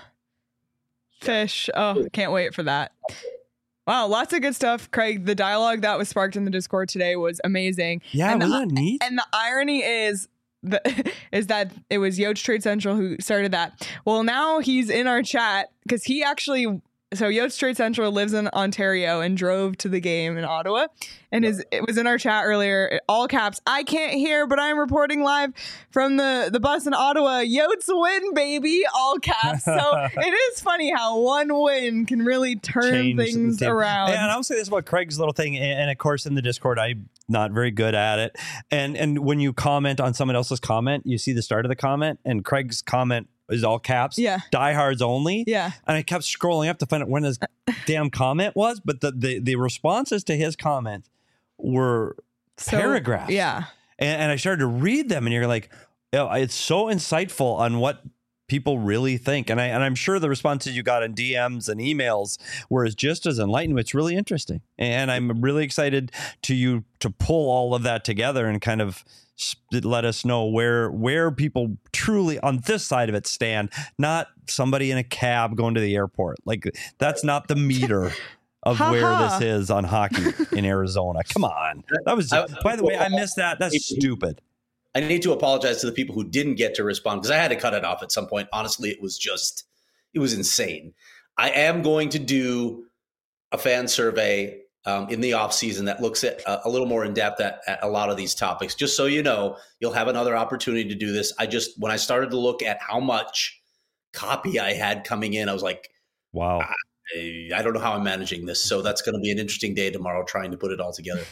Fish. Oh, can't wait for that. Wow, lots of good stuff. Craig, the dialogue that was sparked in the Discord today was amazing. yeah, and wasn't the, that neat? And the irony is the, is that it was Yotes Trade Central who started that. Well, now he's in our chat because he actually, so Yotes Trade Central lives in Ontario and drove to the game in Ottawa, and is it was in our chat earlier, all caps. I can't hear, but I'm reporting live from the the bus in Ottawa. Yotes win, baby, all caps. So it is funny how one win can really turn Change things the team. around. And I'll say this about Craig's little thing, and, and of course in the Discord, I'm not very good at it. And and when you comment on someone else's comment, you see the start of the comment, and Craig's comment is all caps. Yeah. Diehards only. Yeah. And I kept scrolling up to find out when his damn comment was, but the, the, the responses to his comment were So, paragraphs. Yeah. And, and I started to read them, and you're like, oh, it's so insightful on what people really think. And I and I'm sure the responses you got in D Ms and emails were just as enlightening. It's really interesting. And I'm really excited to you to pull all of that together and kind of let us know where where people truly on this side of it stand, not somebody in a cab going to the airport. Like that's not the meter of Ha where ha. this is on hockey in Arizona. Come on. That was, I- by the way, I missed that. That's stupid. I need to apologize to the people who didn't get to respond because I had to cut it off at some point. Honestly, it was just, it was insane. I am going to do a fan survey um, in the off season that looks at uh, a little more in depth at, at a lot of these topics. Just so you know, you'll have another opportunity to do this. I just, when I started to look at how much copy I had coming in, I was like, Wow. I, I don't know how I'm managing this. So that's going to be an interesting day tomorrow trying to put it all together.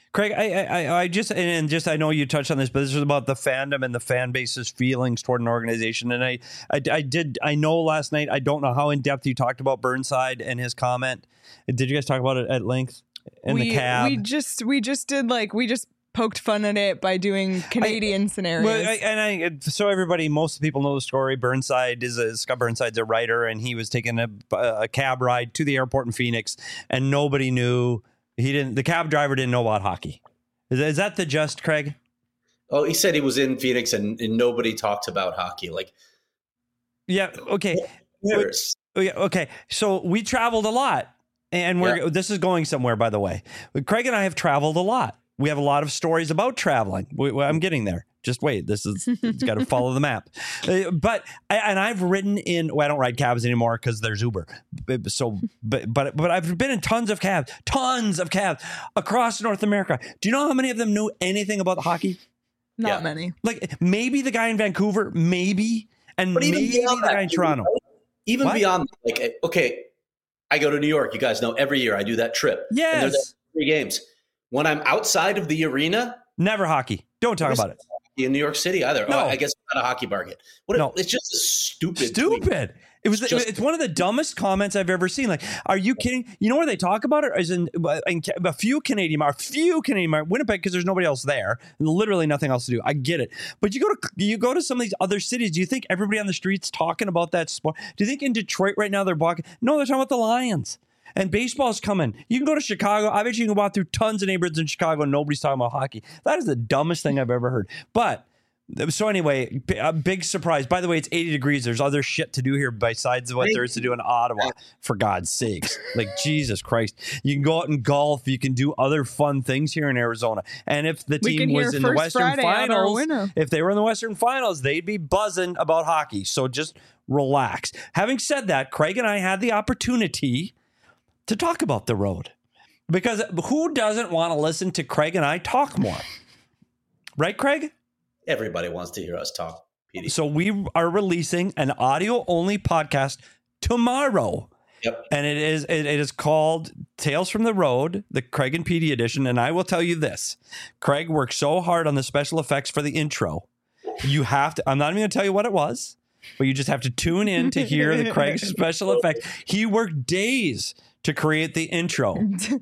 Craig, I, I, I just and just I know you touched on this, but this is about the fandom and the fan base's feelings toward an organization. And I, I, I did I know last night. I don't know how in depth you talked about Burnside and his comment. Did you guys talk about it at length in we, the cab? We just we just did like we just poked fun at it by doing Canadian I, scenarios. Well, I, and I so everybody, most people know the story. Burnside is a Scott Burnside's a writer, and he was taking a, a cab ride to the airport in Phoenix, and nobody knew. He didn't. The cab driver didn't know about hockey. Is, is that the just, Craig? Oh, he said he was in Phoenix and, and nobody talked about hockey. Like, yeah, okay, years. yeah, okay. So we traveled a lot, and we're. Yeah. This is going somewhere, by the way. Craig and I have traveled a lot. We have a lot of stories about traveling. We, I'm getting there. Just wait. This is it's got to follow the map. Uh, but and I've ridden in. Well, I don't ride cabs anymore because there's Uber. So, but but but I've been in tons of cabs, tons of cabs across North America. Do you know how many of them knew anything about hockey? Not yeah. many. Like maybe the guy in Vancouver, maybe, and but maybe the that, guy in Toronto. Even what? beyond, like, okay, I go to New York. You guys know every year I do that trip. Yes. And there's three games. When I'm outside of the arena, never hockey. Don't talk about it. In New York City either. No. Oh, I guess not a hockey market. What? No. It's just a stupid. Stupid. Tweet. It was. It's, just, it's one of the dumbest comments I've ever seen. Like, are you kidding? You know where they talk about it is in, in a few Canadian, a few Canadian, Winnipeg, because there's nobody else there, and literally nothing else to do. I get it, but you go to you go to some of these other cities. Do you think everybody on the streets talking about that sport? Do you think in Detroit right now they're walking? No, they're talking about the Lions. And baseball's coming. You can go to Chicago. I bet you can walk through tons of neighborhoods in Chicago and nobody's talking about hockey. That is the dumbest thing I've ever heard. But so anyway, a big surprise. By the way, it's eighty degrees. There's other shit to do here besides what there is to do in Ottawa, for God's sakes. Like, Jesus Christ. You can go out and golf. You can do other fun things here in Arizona. And if the team was in the Western Friday Finals, if they were in the Western Finals, they'd be buzzing about hockey. So just relax. Having said that, Craig and I had the opportunity to talk about the road, because who doesn't want to listen to Craig and I talk more? Right, Craig? Everybody wants to hear us talk, Petey. So we are releasing an audio-only podcast tomorrow. Yep. And it is it, it is called Tales from the Road, the Craig and Petey edition. And I will tell you this. Craig worked so hard on the special effects for the intro. You have to, I'm not even going to tell you what it was, but you just have to tune in to hear the Craig's special effects. He worked days to create the intro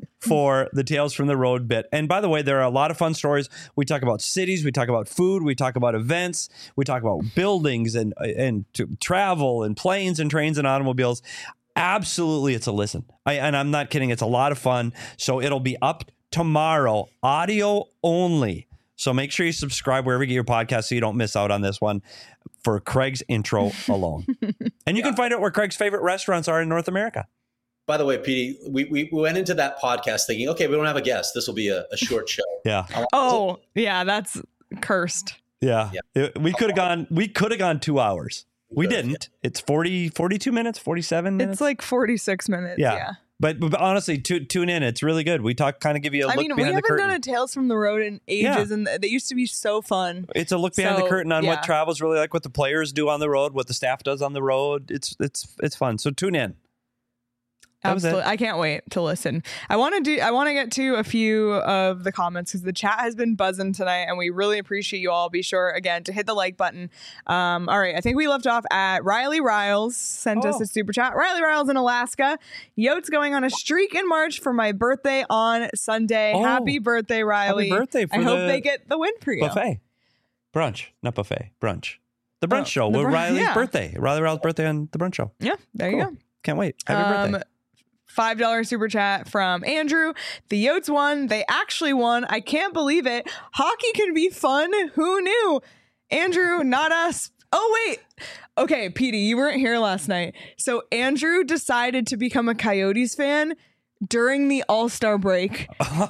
for the Tales from the Road bit. And by the way, there are a lot of fun stories. We talk about cities, we talk about food, we talk about events, we talk about buildings and and to travel and planes and trains and automobiles. Absolutely, it's a listen. I, and I'm not kidding. It's a lot of fun. So it'll be up tomorrow, audio only. So make sure you subscribe wherever you get your podcast so you don't miss out on this one for Craig's intro alone. And you yeah. can find out where Craig's favorite restaurants are in North America. By the way, Petey, we, we went into that podcast thinking, okay, we don't have a guest. This will be a, a short show. Yeah. Oh, yeah, that's cursed. Yeah. yeah. It, we could have gone, we could have gone two hours. We, we didn't. Yeah. It's forty, forty-two minutes, forty-seven minutes. It's like forty-six minutes. Yeah. yeah. But, but honestly, tu- tune in. It's really good. We talk, kind of give you a I look mean, behind the curtain. We haven't done a Tales from the Road in ages, yeah. and they used to be so fun. It's a look behind so, the curtain on yeah. what travel's really like, what the players do on the road, what the staff does on the road. It's it's it's fun. So tune in. Absolutely. I can't wait to listen. I want to do, I want to get to a few of the comments because the chat has been buzzing tonight and we really appreciate you all. Be sure again to hit the like button. Um, all right. I think we left off at Riley Riles sent oh. us a super chat. Riley Riles in Alaska. Yotes going on a streak in March for my birthday on Sunday. Oh. Happy birthday, Riley. Happy birthday. For I the hope they get the win for you. Buffet. Brunch. Not buffet. Brunch. The brunch oh, show with br- Riley's yeah. birthday. Riley Riles' birthday on the brunch show. Yeah. There cool. you go. Can't wait. Happy um, birthday. five dollars super chat from Andrew. The Yotes won. They actually won. I can't believe it. Hockey can be fun. Who knew? Andrew, not us. Oh, wait. Okay, Petey, you weren't here last night. So Andrew decided to become a Coyotes fan during the All-Star break.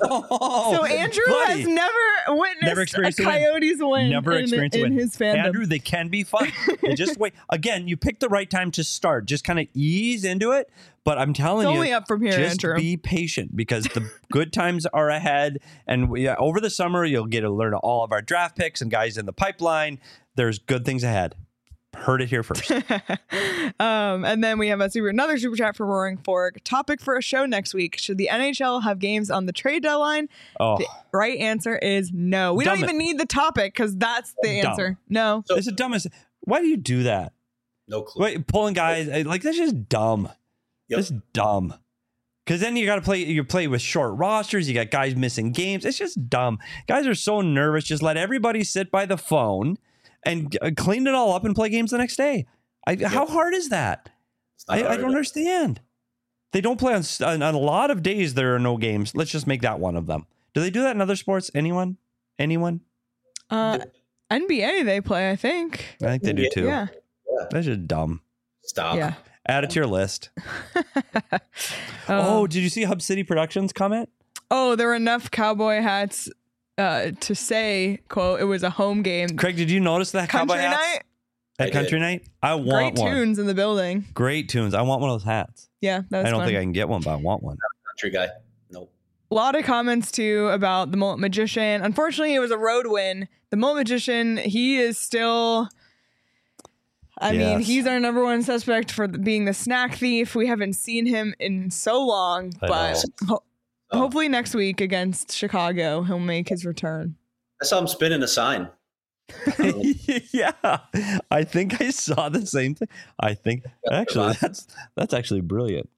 Oh, so Andrew buddy. has never witnessed never experienced a Coyotes win, win never in, experienced in a win. his fandom. Andrew, they can be fun. Just wait. Again, you picked the right time to start. Just kind of ease into it. But I'm telling it's you, only up from here, just Andrew. Be patient because the good times are ahead. And we, uh, over the summer, you'll get to learn all of our draft picks and guys in the pipeline. There's good things ahead. Heard it here first. um, and then we have a super, another super chat for Roaring Fork. Topic for a show next week. Should the N H L have games on the trade deadline? Oh, The right answer is no. We Dumb don't even it. need the topic because that's the Dumb. answer. No. So- it's the dumbest. Why do you do that? No clue. Wait, pulling guys eh, like that's just dumb. Yep. It's dumb. Because then you got to play. You play with short rosters. You got guys missing games. It's just dumb. Guys are so nervous. Just let everybody sit by the phone and uh, clean it all up and play games the next day. I, How hard is that? It's not I, I hard. don't understand. They don't play on, s- on on a lot of days. There are no games. Let's just make that one of them. Do they do that in other sports? Anyone? Anyone? Uh, N B A they play, I think. I think they do too. Yeah. That's just dumb. Stop. Yeah. Add it to your list. Um, Oh, did you see Hub City Productions comment? oh, there were enough cowboy hats uh, to say, quote, it was a home game. Craig, did you notice that Country cowboy hats night, I at Country did. Night? I want great one. tunes in the building. Great tunes. I want one of those hats. Yeah, that was I don't fun. think I can get one, but I want one. Country guy. Nope. A lot of comments too about the Mullet Magician. Unfortunately, it was a road win. The Mullet Magician, he is still. I mean, Yes. he's our number one suspect for being the snack thief. We haven't seen him in so long, I but ho- Oh. hopefully next week against Chicago, he'll make his return. I saw him spinning a sign. Yeah, I think I saw the same thing. I think actually that's that's actually brilliant.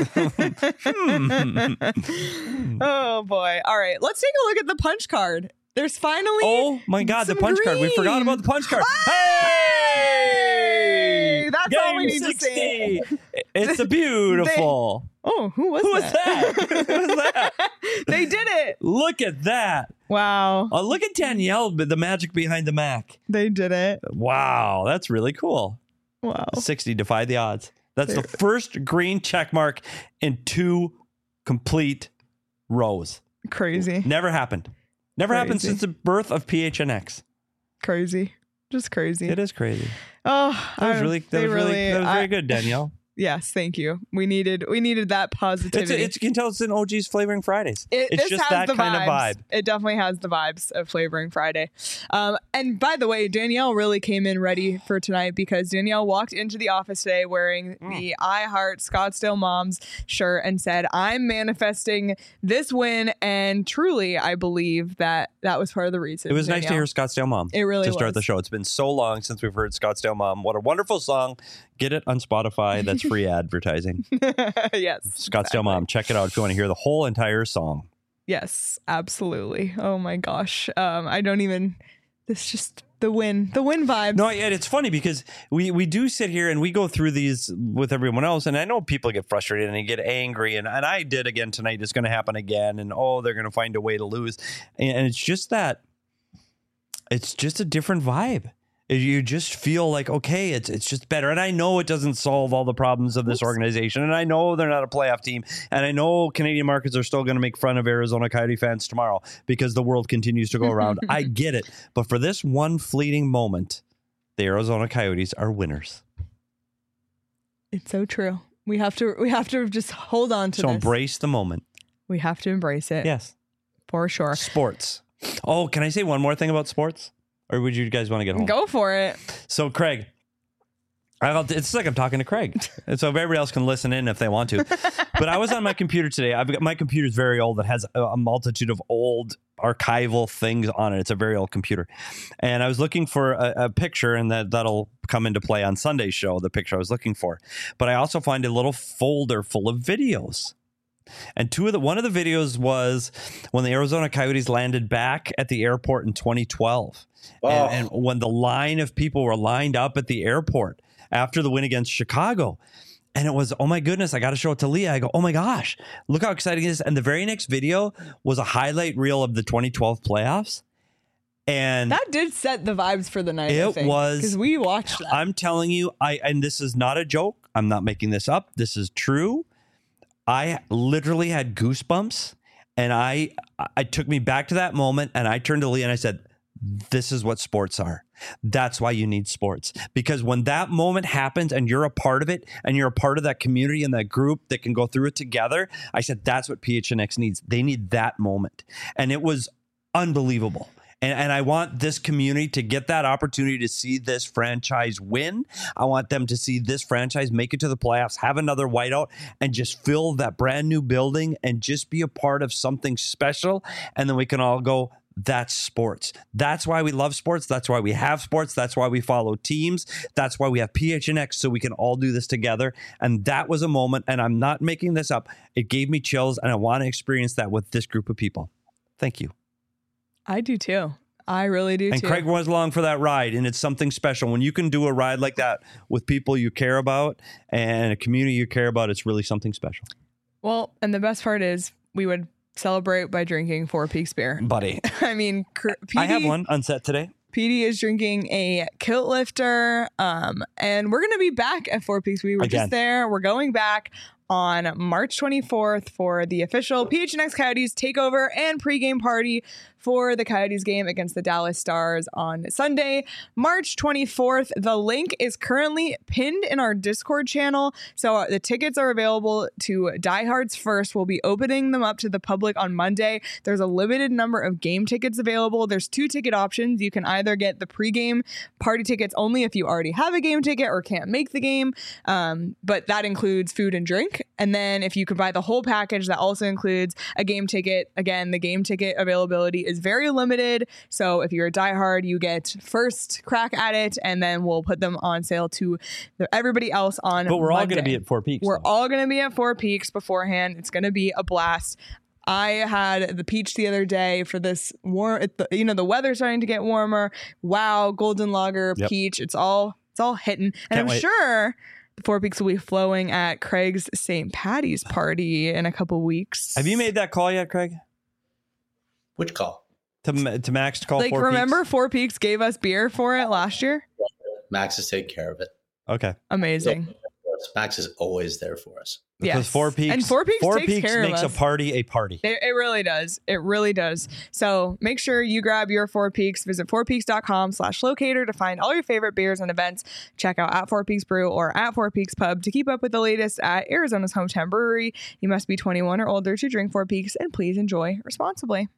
Oh boy! All right, let's take a look at the punch card. There's finally. Oh my God, the some punch card. We forgot green. about the punch card. Hey! That's all we Game need to say. sixty. It's a beautiful. Oh, who was Who was that? that? Who was that? They did it! Look at that. Wow, Oh, look at Danielle, the magic behind the Mac. they did it! Wow, that's really cool. Wow. sixty, defy the odds. That's the first green check mark in two complete rows. Crazy. Never happened. Never happened Crazy. since the birth of P H N X. Crazy. Just crazy. It is crazy. Oh, That was I- really, that they was really, that was I- very good, Danielle. Yes, thank you. We needed we needed that It's, positivity. it's, you can tell it's in O G's Flavoring Fridays. It, it's this just has that the kind vibes. of vibe. It definitely has the vibes of Flavoring Friday. Um, and by the way, Danielle really came in ready for tonight because Danielle walked into the office today wearing Mm. the I Heart Scottsdale Moms shirt and said, I'm manifesting this win. And truly, I believe that that was part of the reason. It was nice to Danielle. hear Scottsdale Mom It really to start was. the show. It's been so long since we've heard Scottsdale Mom. What a wonderful song. Get it on Spotify. That's free advertising. Yes. Scottsdale exactly. Mom. Check it out if you want to hear the whole entire song. Yes, absolutely. Oh my gosh. Um, I don't even. This just the win, the win vibes. No, and it's funny because we, we do sit here and we go through these with everyone else. And I know people get frustrated and they get angry. And, and I did again tonight. It's going to happen again. And, oh, they're going to find a way to lose. And, and it's just that it's just a different vibe. You just feel like, okay, it's it's just better. And I know it doesn't solve all the problems of this organization. And I know they're not a playoff team. And I know Canadian markets are still going to make fun of Arizona Coyote fans tomorrow because the world continues to go around. I get it. But for this one fleeting moment, the Arizona Coyotes are winners. It's so true. We have to. We have to just hold on to So this. embrace the moment. We have to embrace it. Yes. For sure. Sports. Oh, can I say one more thing about sports? Or would you guys want to get home? Go for it. So, Craig, I'll, it's like I'm talking to Craig. And so everybody else can listen in if they want to. But I was on my computer today. I've got my computer's very old. It has a, a multitude of old archival things on it. It's a very old computer. And I was looking for a, a picture, and that, that'll come into play on Sunday's show, the picture I was looking for. But I also find a little folder full of videos. And two of the one of the videos was when the Arizona Coyotes landed back at the airport in twenty twelve. Oh. And, and when the line of people were lined up at the airport after the win against Chicago. And it was, oh my goodness, I got to show it to Leah. I go, oh my gosh, look how exciting it is. And the very next video was a highlight reel of the twenty twelve playoffs. And That did set the vibes for the night. It was- because we watched that. I'm telling you, I and this is not a joke. I'm not making this up. This is true. I literally had goosebumps, and I I took me back to that moment, and I turned to Leah and I said, this is what sports are. That's why you need sports. Because when that moment happens and you're a part of it and you're a part of that community and that group that can go through it together, I said, that's what P H N X needs. They need that moment. And it was unbelievable. And, and I want this community to get that opportunity to see this franchise win. I want them to see this franchise make it to the playoffs, have another whiteout, and just fill that brand new building and just be a part of something special. And then we can all go, that's sports. That's why we love sports. That's why we have sports. That's why we follow teams. That's why we have P H N X, so we can all do this together. And that was a moment, and I'm not making this up. It gave me chills, and I want to experience that with this group of people. Thank you. I do too. I really do and too. Craig was along for that ride, and it's something special. When you can do a ride like that with people you care about and a community you care about, it's really something special. Well, and the best part is we would celebrate by drinking Four Peaks beer. Buddy. I mean, P D, I have one on set today. P D is drinking a Kilt Lifter, um, and we're going to be back at Four Peaks. We were Again. just there. We're going back on March twenty-fourth for the official P H N X Coyotes takeover and pregame party for the Coyotes game against the Dallas Stars on Sunday, March twenty-fourth. The link is currently pinned in our Discord channel. So the tickets are available to diehards first. We'll be opening them up to the public on Monday. There's a limited number of game tickets available. There's two ticket options. You can either get the pregame party tickets only if you already have a game ticket or can't make the game. Um, but that includes food and drink. And then if you could buy the whole package, that also includes a game ticket. Again, the game ticket availability is very limited. So if you're a diehard, you get first crack at it, and then we'll put them on sale to everybody else on But we're Monday. all going to be at Four Peaks. We're though. all going to be at Four Peaks beforehand. It's going to be a blast. I had the peach the other day for this warm, you know, the weather's starting to get warmer. Wow, golden lager, Yep. peach. It's all, it's all hitting. And Can't I'm wait. sure the Four Peaks will be flowing at Craig's Saint Patty's party in a couple weeks. Have you made that call yet, Craig? Which call? To, to Max to call like, Four remember Peaks? Four Peaks gave us beer for it last year? Max is taking care of it. Okay. Amazing. Max is always there for us. Because Yes. Four Peaks, And Four Peaks takes Peaks care of makes us. a party a party. It, it really does. It really does. So make sure you grab your Four Peaks. Visit four peaks dot com slash locator to find all your favorite beers and events. Check out at Four Peaks Brew or at Four Peaks Pub to keep up with the latest at Arizona's hometown brewery. You must be twenty-one or older to drink Four Peaks, and please enjoy responsibly.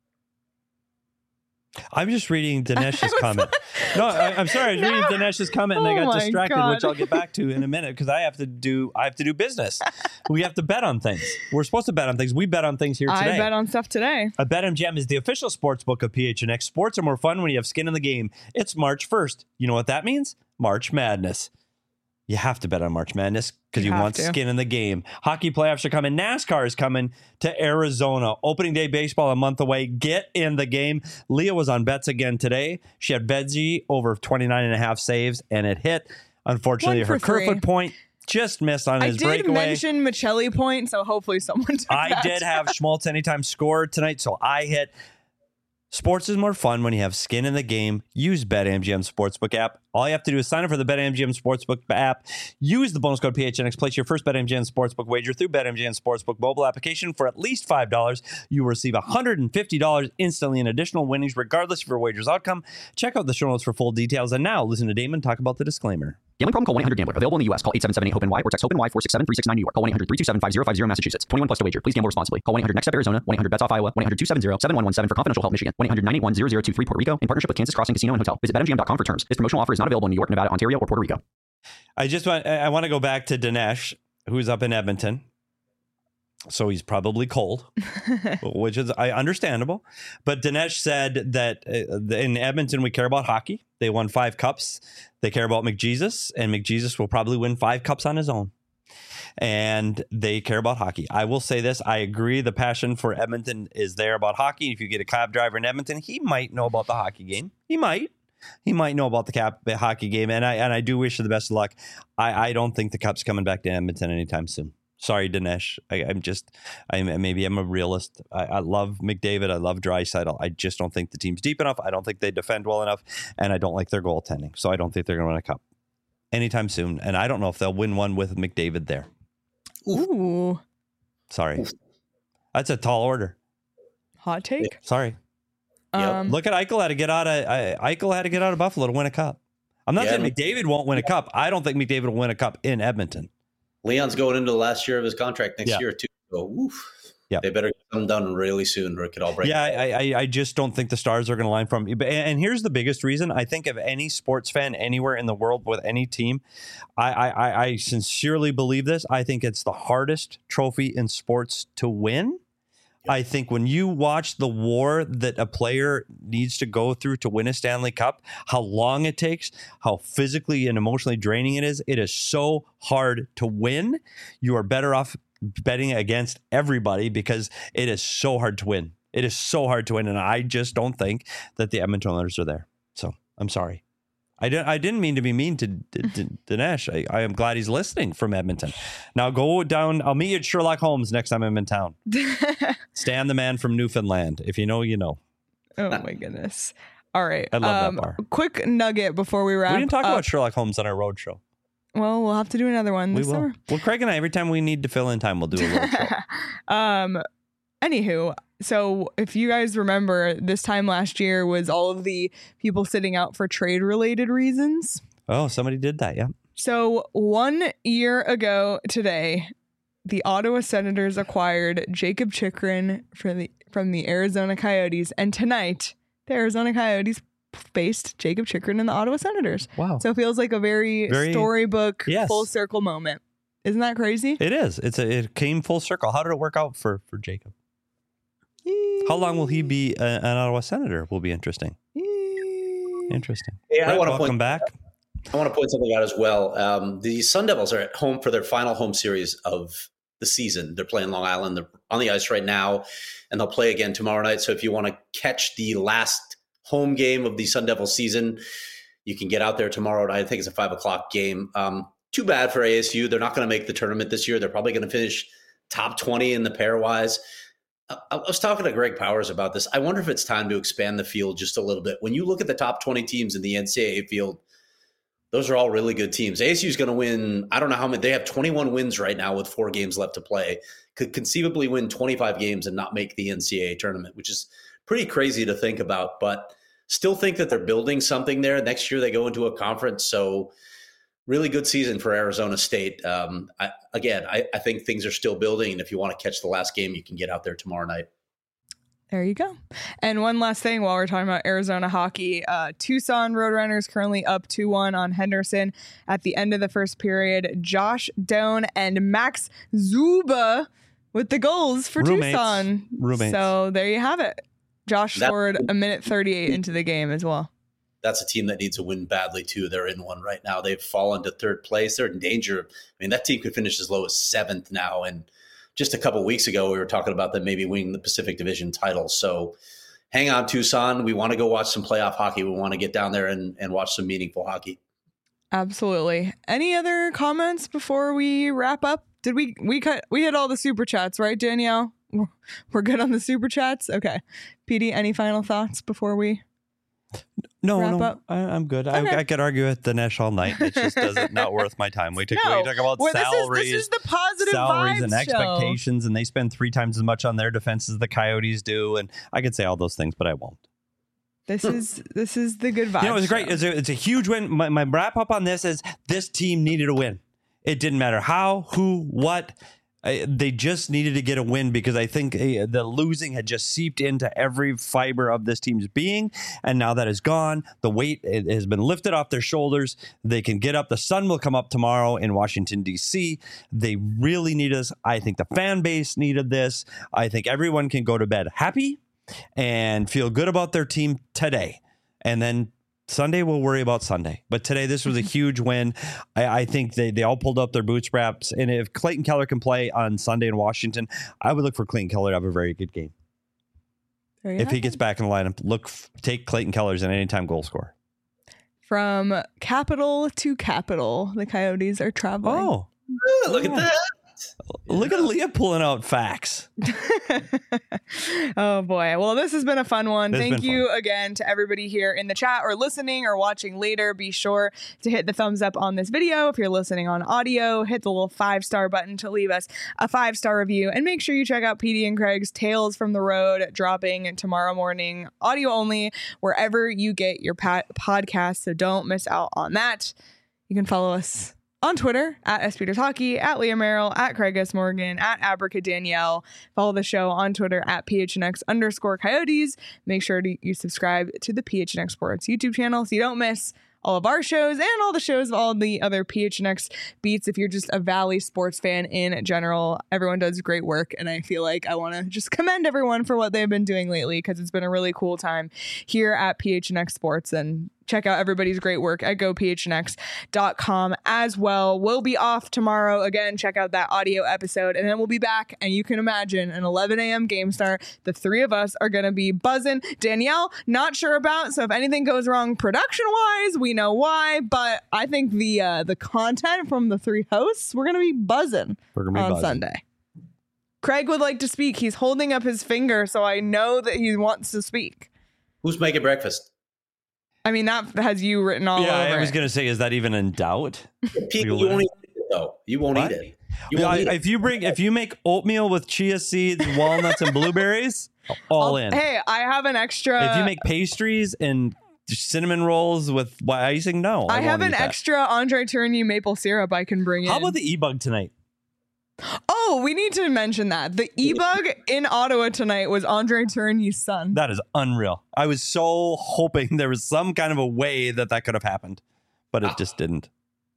I'm just reading Dinesh's comment. No, I, I'm sorry. I was No. reading Dinesh's comment and Oh I got my distracted, God. which I'll get back to in a minute because I have to do I have to do business. We have to bet on things. We're supposed to bet on things. We bet on things here today. I bet on stuff today. A BetMGM is the official sports book of P H N X. Sports are more fun when you have skin in the game. It's March first. You know what that means? March Madness. You have to bet on March Madness because You you, have want to. skin in the game. Hockey playoffs are coming. NASCAR is coming to Arizona. Opening day baseball a month away. Get in the game. Leah was on bets again today. She had Veggie over twenty-nine and a half saves, and it hit. Unfortunately, One for her three. Kerfoot point just missed on I his did breakaway. mention Michelli point, so hopefully someone took I that. did have Schmaltz anytime score tonight, so I hit. Sports is more fun when you have skin in the game. Use BetMGM Sportsbook app. All you have to do is sign up for the BetMGM Sportsbook app. Use the bonus code P H N X. Place your first BetMGM Sportsbook wager through BetMGM Sportsbook mobile application for at least five dollars. You will receive one hundred fifty dollars instantly in additional winnings, regardless of your wager's outcome. Check out the show notes for full details. And now, listen to Damon talk about the disclaimer. Gambling problem? Call one eight hundred gambler. Available in the U S. Call eight seven seven eight hope N Y or text HOPE-NY four six seven three six nine New York. Call one eight hundred three two seven five zero five zero Massachusetts. twenty-one plus to wager. Please gamble responsibly. Call one eight hundred next step Arizona. one eight hundred bets off Iowa. one eight hundred two seven zero seven one one seven for confidential help Michigan. one eight hundred nine eight one zero zero two three Puerto Rico in partnership with Kansas Crossing Casino and Hotel. Visit bet M G M dot com for terms. This promotional offer is not available in New York, Nevada, Ontario, or Puerto Rico. I just want I want to go back to Dinesh, who's up in Edmonton. So he's probably cold, which is I understandable. But Dinesh said that uh, in Edmonton we care about hockey. They won five cups. They care about McJesus, and McJesus will probably win five cups on his own. And they care about hockey. I will say this. I agree. The passion for Edmonton is there about hockey. If you get a cab driver in Edmonton, he might know about the hockey game. He might. He might know about the cap the hockey game. And I and I do wish you the best of luck. I, I don't think the cup's coming back to Edmonton anytime soon. Sorry, Dinesh. I, I'm just, I'm maybe I'm a realist. I, I love McDavid. I love Draisaitl. I just don't think the team's deep enough. I don't think they defend well enough. And I don't like their goaltending. So I don't think they're going to win a cup anytime soon. And I don't know if they'll win one with McDavid there. Ooh, Sorry. That's a tall order. hot take. Sorry. Yep. Um, Look at Eichel had to get out of I, Eichel had to get out of Buffalo to win a cup. I'm not Yeah. saying McDavid won't win a cup. I don't think McDavid will win a cup in Edmonton. Leon's going into the last year of his contract next Yeah. year too. So, oof. Yeah, they better get them done really soon, or it could all break. Yeah, I, I, I just don't think the stars are going to line from. And here's the biggest reason. I think of any sports fan anywhere in the world with any team, I, I, I sincerely believe this. I think it's the hardest trophy in sports to win. I think when you watch the war that a player needs to go through to win a Stanley Cup, how long it takes, how physically and emotionally draining it is, it is so hard to win. You are better off betting against everybody because it is so hard to win. It is so hard to win. And I just don't think that the Edmonton Oilers are there. So I'm sorry. I didn't, I didn't mean to be mean to, to, to Dinesh. I, I am glad he's listening from Edmonton. Now go down. I'll meet you at Sherlock Holmes next time I'm in town. Stan the man from Newfoundland. If you know, you know. Oh, my goodness. All right. I love um, that bar. Quick nugget before we wrap up. We didn't talk up. about Sherlock Holmes on our road show. Well, we'll have to do another one this we will. summer. Well, Craig and I, every time we need to fill in time, we'll do a road show. um, anywho, so if you guys remember, this time last year was all of the people sitting out for trade-related reasons. Oh, somebody did that, yeah. So one year ago today, the Ottawa Senators acquired Jacob Chychrun for the from the Arizona Coyotes, and tonight the Arizona Coyotes faced Jacob Chychrun and the Ottawa Senators. Wow! So it feels like a very, very storybook, yes. full circle moment. Isn't that crazy? It is. It's a, it came full circle. How did it work out for for Jacob? How long will he be a, an Ottawa Senator? Will be interesting. Interesting. Yeah, Brett, I want to welcome point, back. I want to point something out as well. Um, the Sun Devils are at home for their final home series of the season. They're playing Long Island. They're on the ice right now, and they'll play again tomorrow night. So if you want to catch the last home game of the Sun Devils season, you can get out there tomorrow night. I think it's a five o'clock game. Um, too bad for A S U. They're not going to make the tournament this year. They're probably going to finish top twenty in the pairwise. I, I was talking to Greg Powers about this. I wonder if it's time to expand the field just a little bit. When you look at the top twenty teams in the N C double A field, those are all really good teams. A S U is going to win. I don't know how many. They have twenty-one wins right now with four games left to play. Could conceivably win twenty-five games and not make the N C double A tournament, which is pretty crazy to think about. But still think that they're building something there. Next year they go into a conference. So really good season for Arizona State. Um, I, again, I, I think things are still building. And if you want to catch the last game, you can get out there tomorrow night. There you go. And one last thing while we're talking about Arizona hockey, uh, Tucson Roadrunners currently up two one on Henderson at the end of the first period. Josh Doan and Max Zuba with the goals for Roommates. Tucson. Roommates. So there you have it. Josh That- scored a minute thirty-eight into the game as well. That's a team that needs to win badly, too. They're in one right now. They've fallen to third place. They're in danger. I mean, that team could finish as low as seventh now. And just a couple of weeks ago, we were talking about them maybe winning the Pacific Division title. So hang on, Tucson. We want to go watch some playoff hockey. We want to get down there and, and watch some meaningful hockey. Absolutely. Any other comments before we wrap up? Did we we cut we hit all the super chats, right, Danielle? We're, we're good on the super chats. Okay. P D, any final thoughts before we No, wrap no, up? I, I'm good. Okay. I, I could argue with Dinesh all night. It just doesn't not worth my time. We, take, No. we talk about Well, this is- salaries, this is the positive salaries vibes and show. expectations, and they spend three times as much on their defense as the Coyotes do. And I could say all those things, but I won't. This is this is the good vibes. You know, it's great. show. It's a, it's a huge win. My, my wrap up on this is this team needed a win. It didn't matter how, who, what. I, they just needed to get a win because I think uh, the losing had just seeped into every fiber of this team's being. And now that is gone. The weight it has been lifted off their shoulders. They can get up. The sun will come up tomorrow in Washington, D C. They really need us. I think the fan base needed this. I think everyone can go to bed happy and feel good about their team today. And then Sunday, we'll worry about Sunday. But today, this was a huge win. I, I think they, they all pulled up their bootstraps. And if Clayton Keller can play on Sunday in Washington, I would look for Clayton Keller to have a very good game. If he gets back in the lineup, look, take Clayton Keller as an anytime goal scorer. From capital to capital, the Coyotes are traveling. Oh, Ooh, look at that. Look at Leah pulling out facts. Oh boy. Well, this has been a fun one. This has Thank been you fun. again to everybody here in the chat or listening or watching later. Be sure to hit the thumbs up on this video. If you're listening on audio, hit the little five star button to leave us a five star review. And make sure you check out P D and Craig's Tales from the Road, dropping tomorrow morning, audio only, wherever you get your pa- podcast. So don't miss out on that. You can follow us on Twitter at S Peters Hockey, at Leah Merrill, at Craig S. Morgan, at Abrica Danielle. Follow the show on Twitter at P H N X underscore Coyotes. Make sure to you subscribe to the P H N X Sports YouTube channel so you don't miss all of our shows and all the shows of all the other P H N X beats. If you're just a Valley sports fan in general, everyone does great work. And I feel like I want to just commend everyone for what they've been doing lately, because it's been a really cool time here at P H N X Sports. And check out everybody's great work at go p h n x dot com as well. We'll be off tomorrow. Again, check out that audio episode, and then we'll be back. And you can imagine an eleven a.m. game start. The three of us are going to be buzzing. Danielle, not sure about. So if anything goes wrong production-wise, we know why. But I think the uh, the content from the three hosts, we're going to be buzzing We're gonna be on buzzing. Sunday. Craig would like to speak. He's holding up his finger, so I know that he wants to speak. Who's making breakfast? I mean, that has you written all Yeah, over I was it. going to say, is that even in doubt? People, you won't eat it, though. You won't What? eat it. You Yeah, won't eat it. if you bring, if you make oatmeal with chia seeds, walnuts, and blueberries, all in. Hey, I have an extra. If you make pastries and cinnamon rolls with white icing, no. I, I, have won't an eat that. extra Andre Tourigny maple syrup I can bring in. How about the e-bug tonight? Oh, we need to mention that. The e-bug in Ottawa tonight was Andre Tourigny's son. That is unreal. I was so hoping there was some kind of a way that that could have happened, but it just didn't.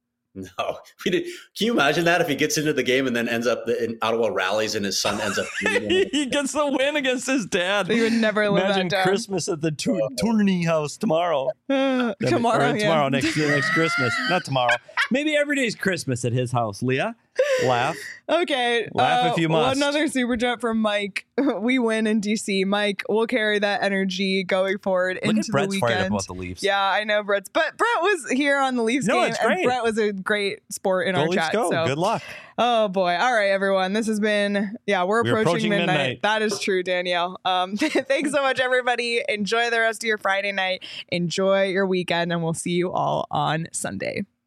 No, we did. Can you imagine that if he gets into the game and then ends up in Ottawa rallies and his son ends up? He gets the win against his dad. He would never live Imagine that down. Christmas at the Tour- Tourney house tomorrow. Uh, That'd be- tomorrow, or yeah. tomorrow, next next Christmas, not tomorrow. Maybe every day's Christmas at his house. Leah, laugh. Okay. Laugh uh, if you must. Another super chat from Mike. We win in D C. Mike, we'll carry that energy going forward Look into at the Brett's fired up weekend. about the Leafs. Yeah, I know Brett's, but Brett was here on the Leafs No, game, it's and great. Brett was a great sport in Go our Leafs, chat. go. So. Good luck. Oh boy. All right, everyone. This has been, yeah, we're, We're approaching, approaching midnight. midnight. That is true, Danielle. Um, thanks so much, everybody. Enjoy the rest of your Friday night. Enjoy your weekend, and we'll see you all on Sunday.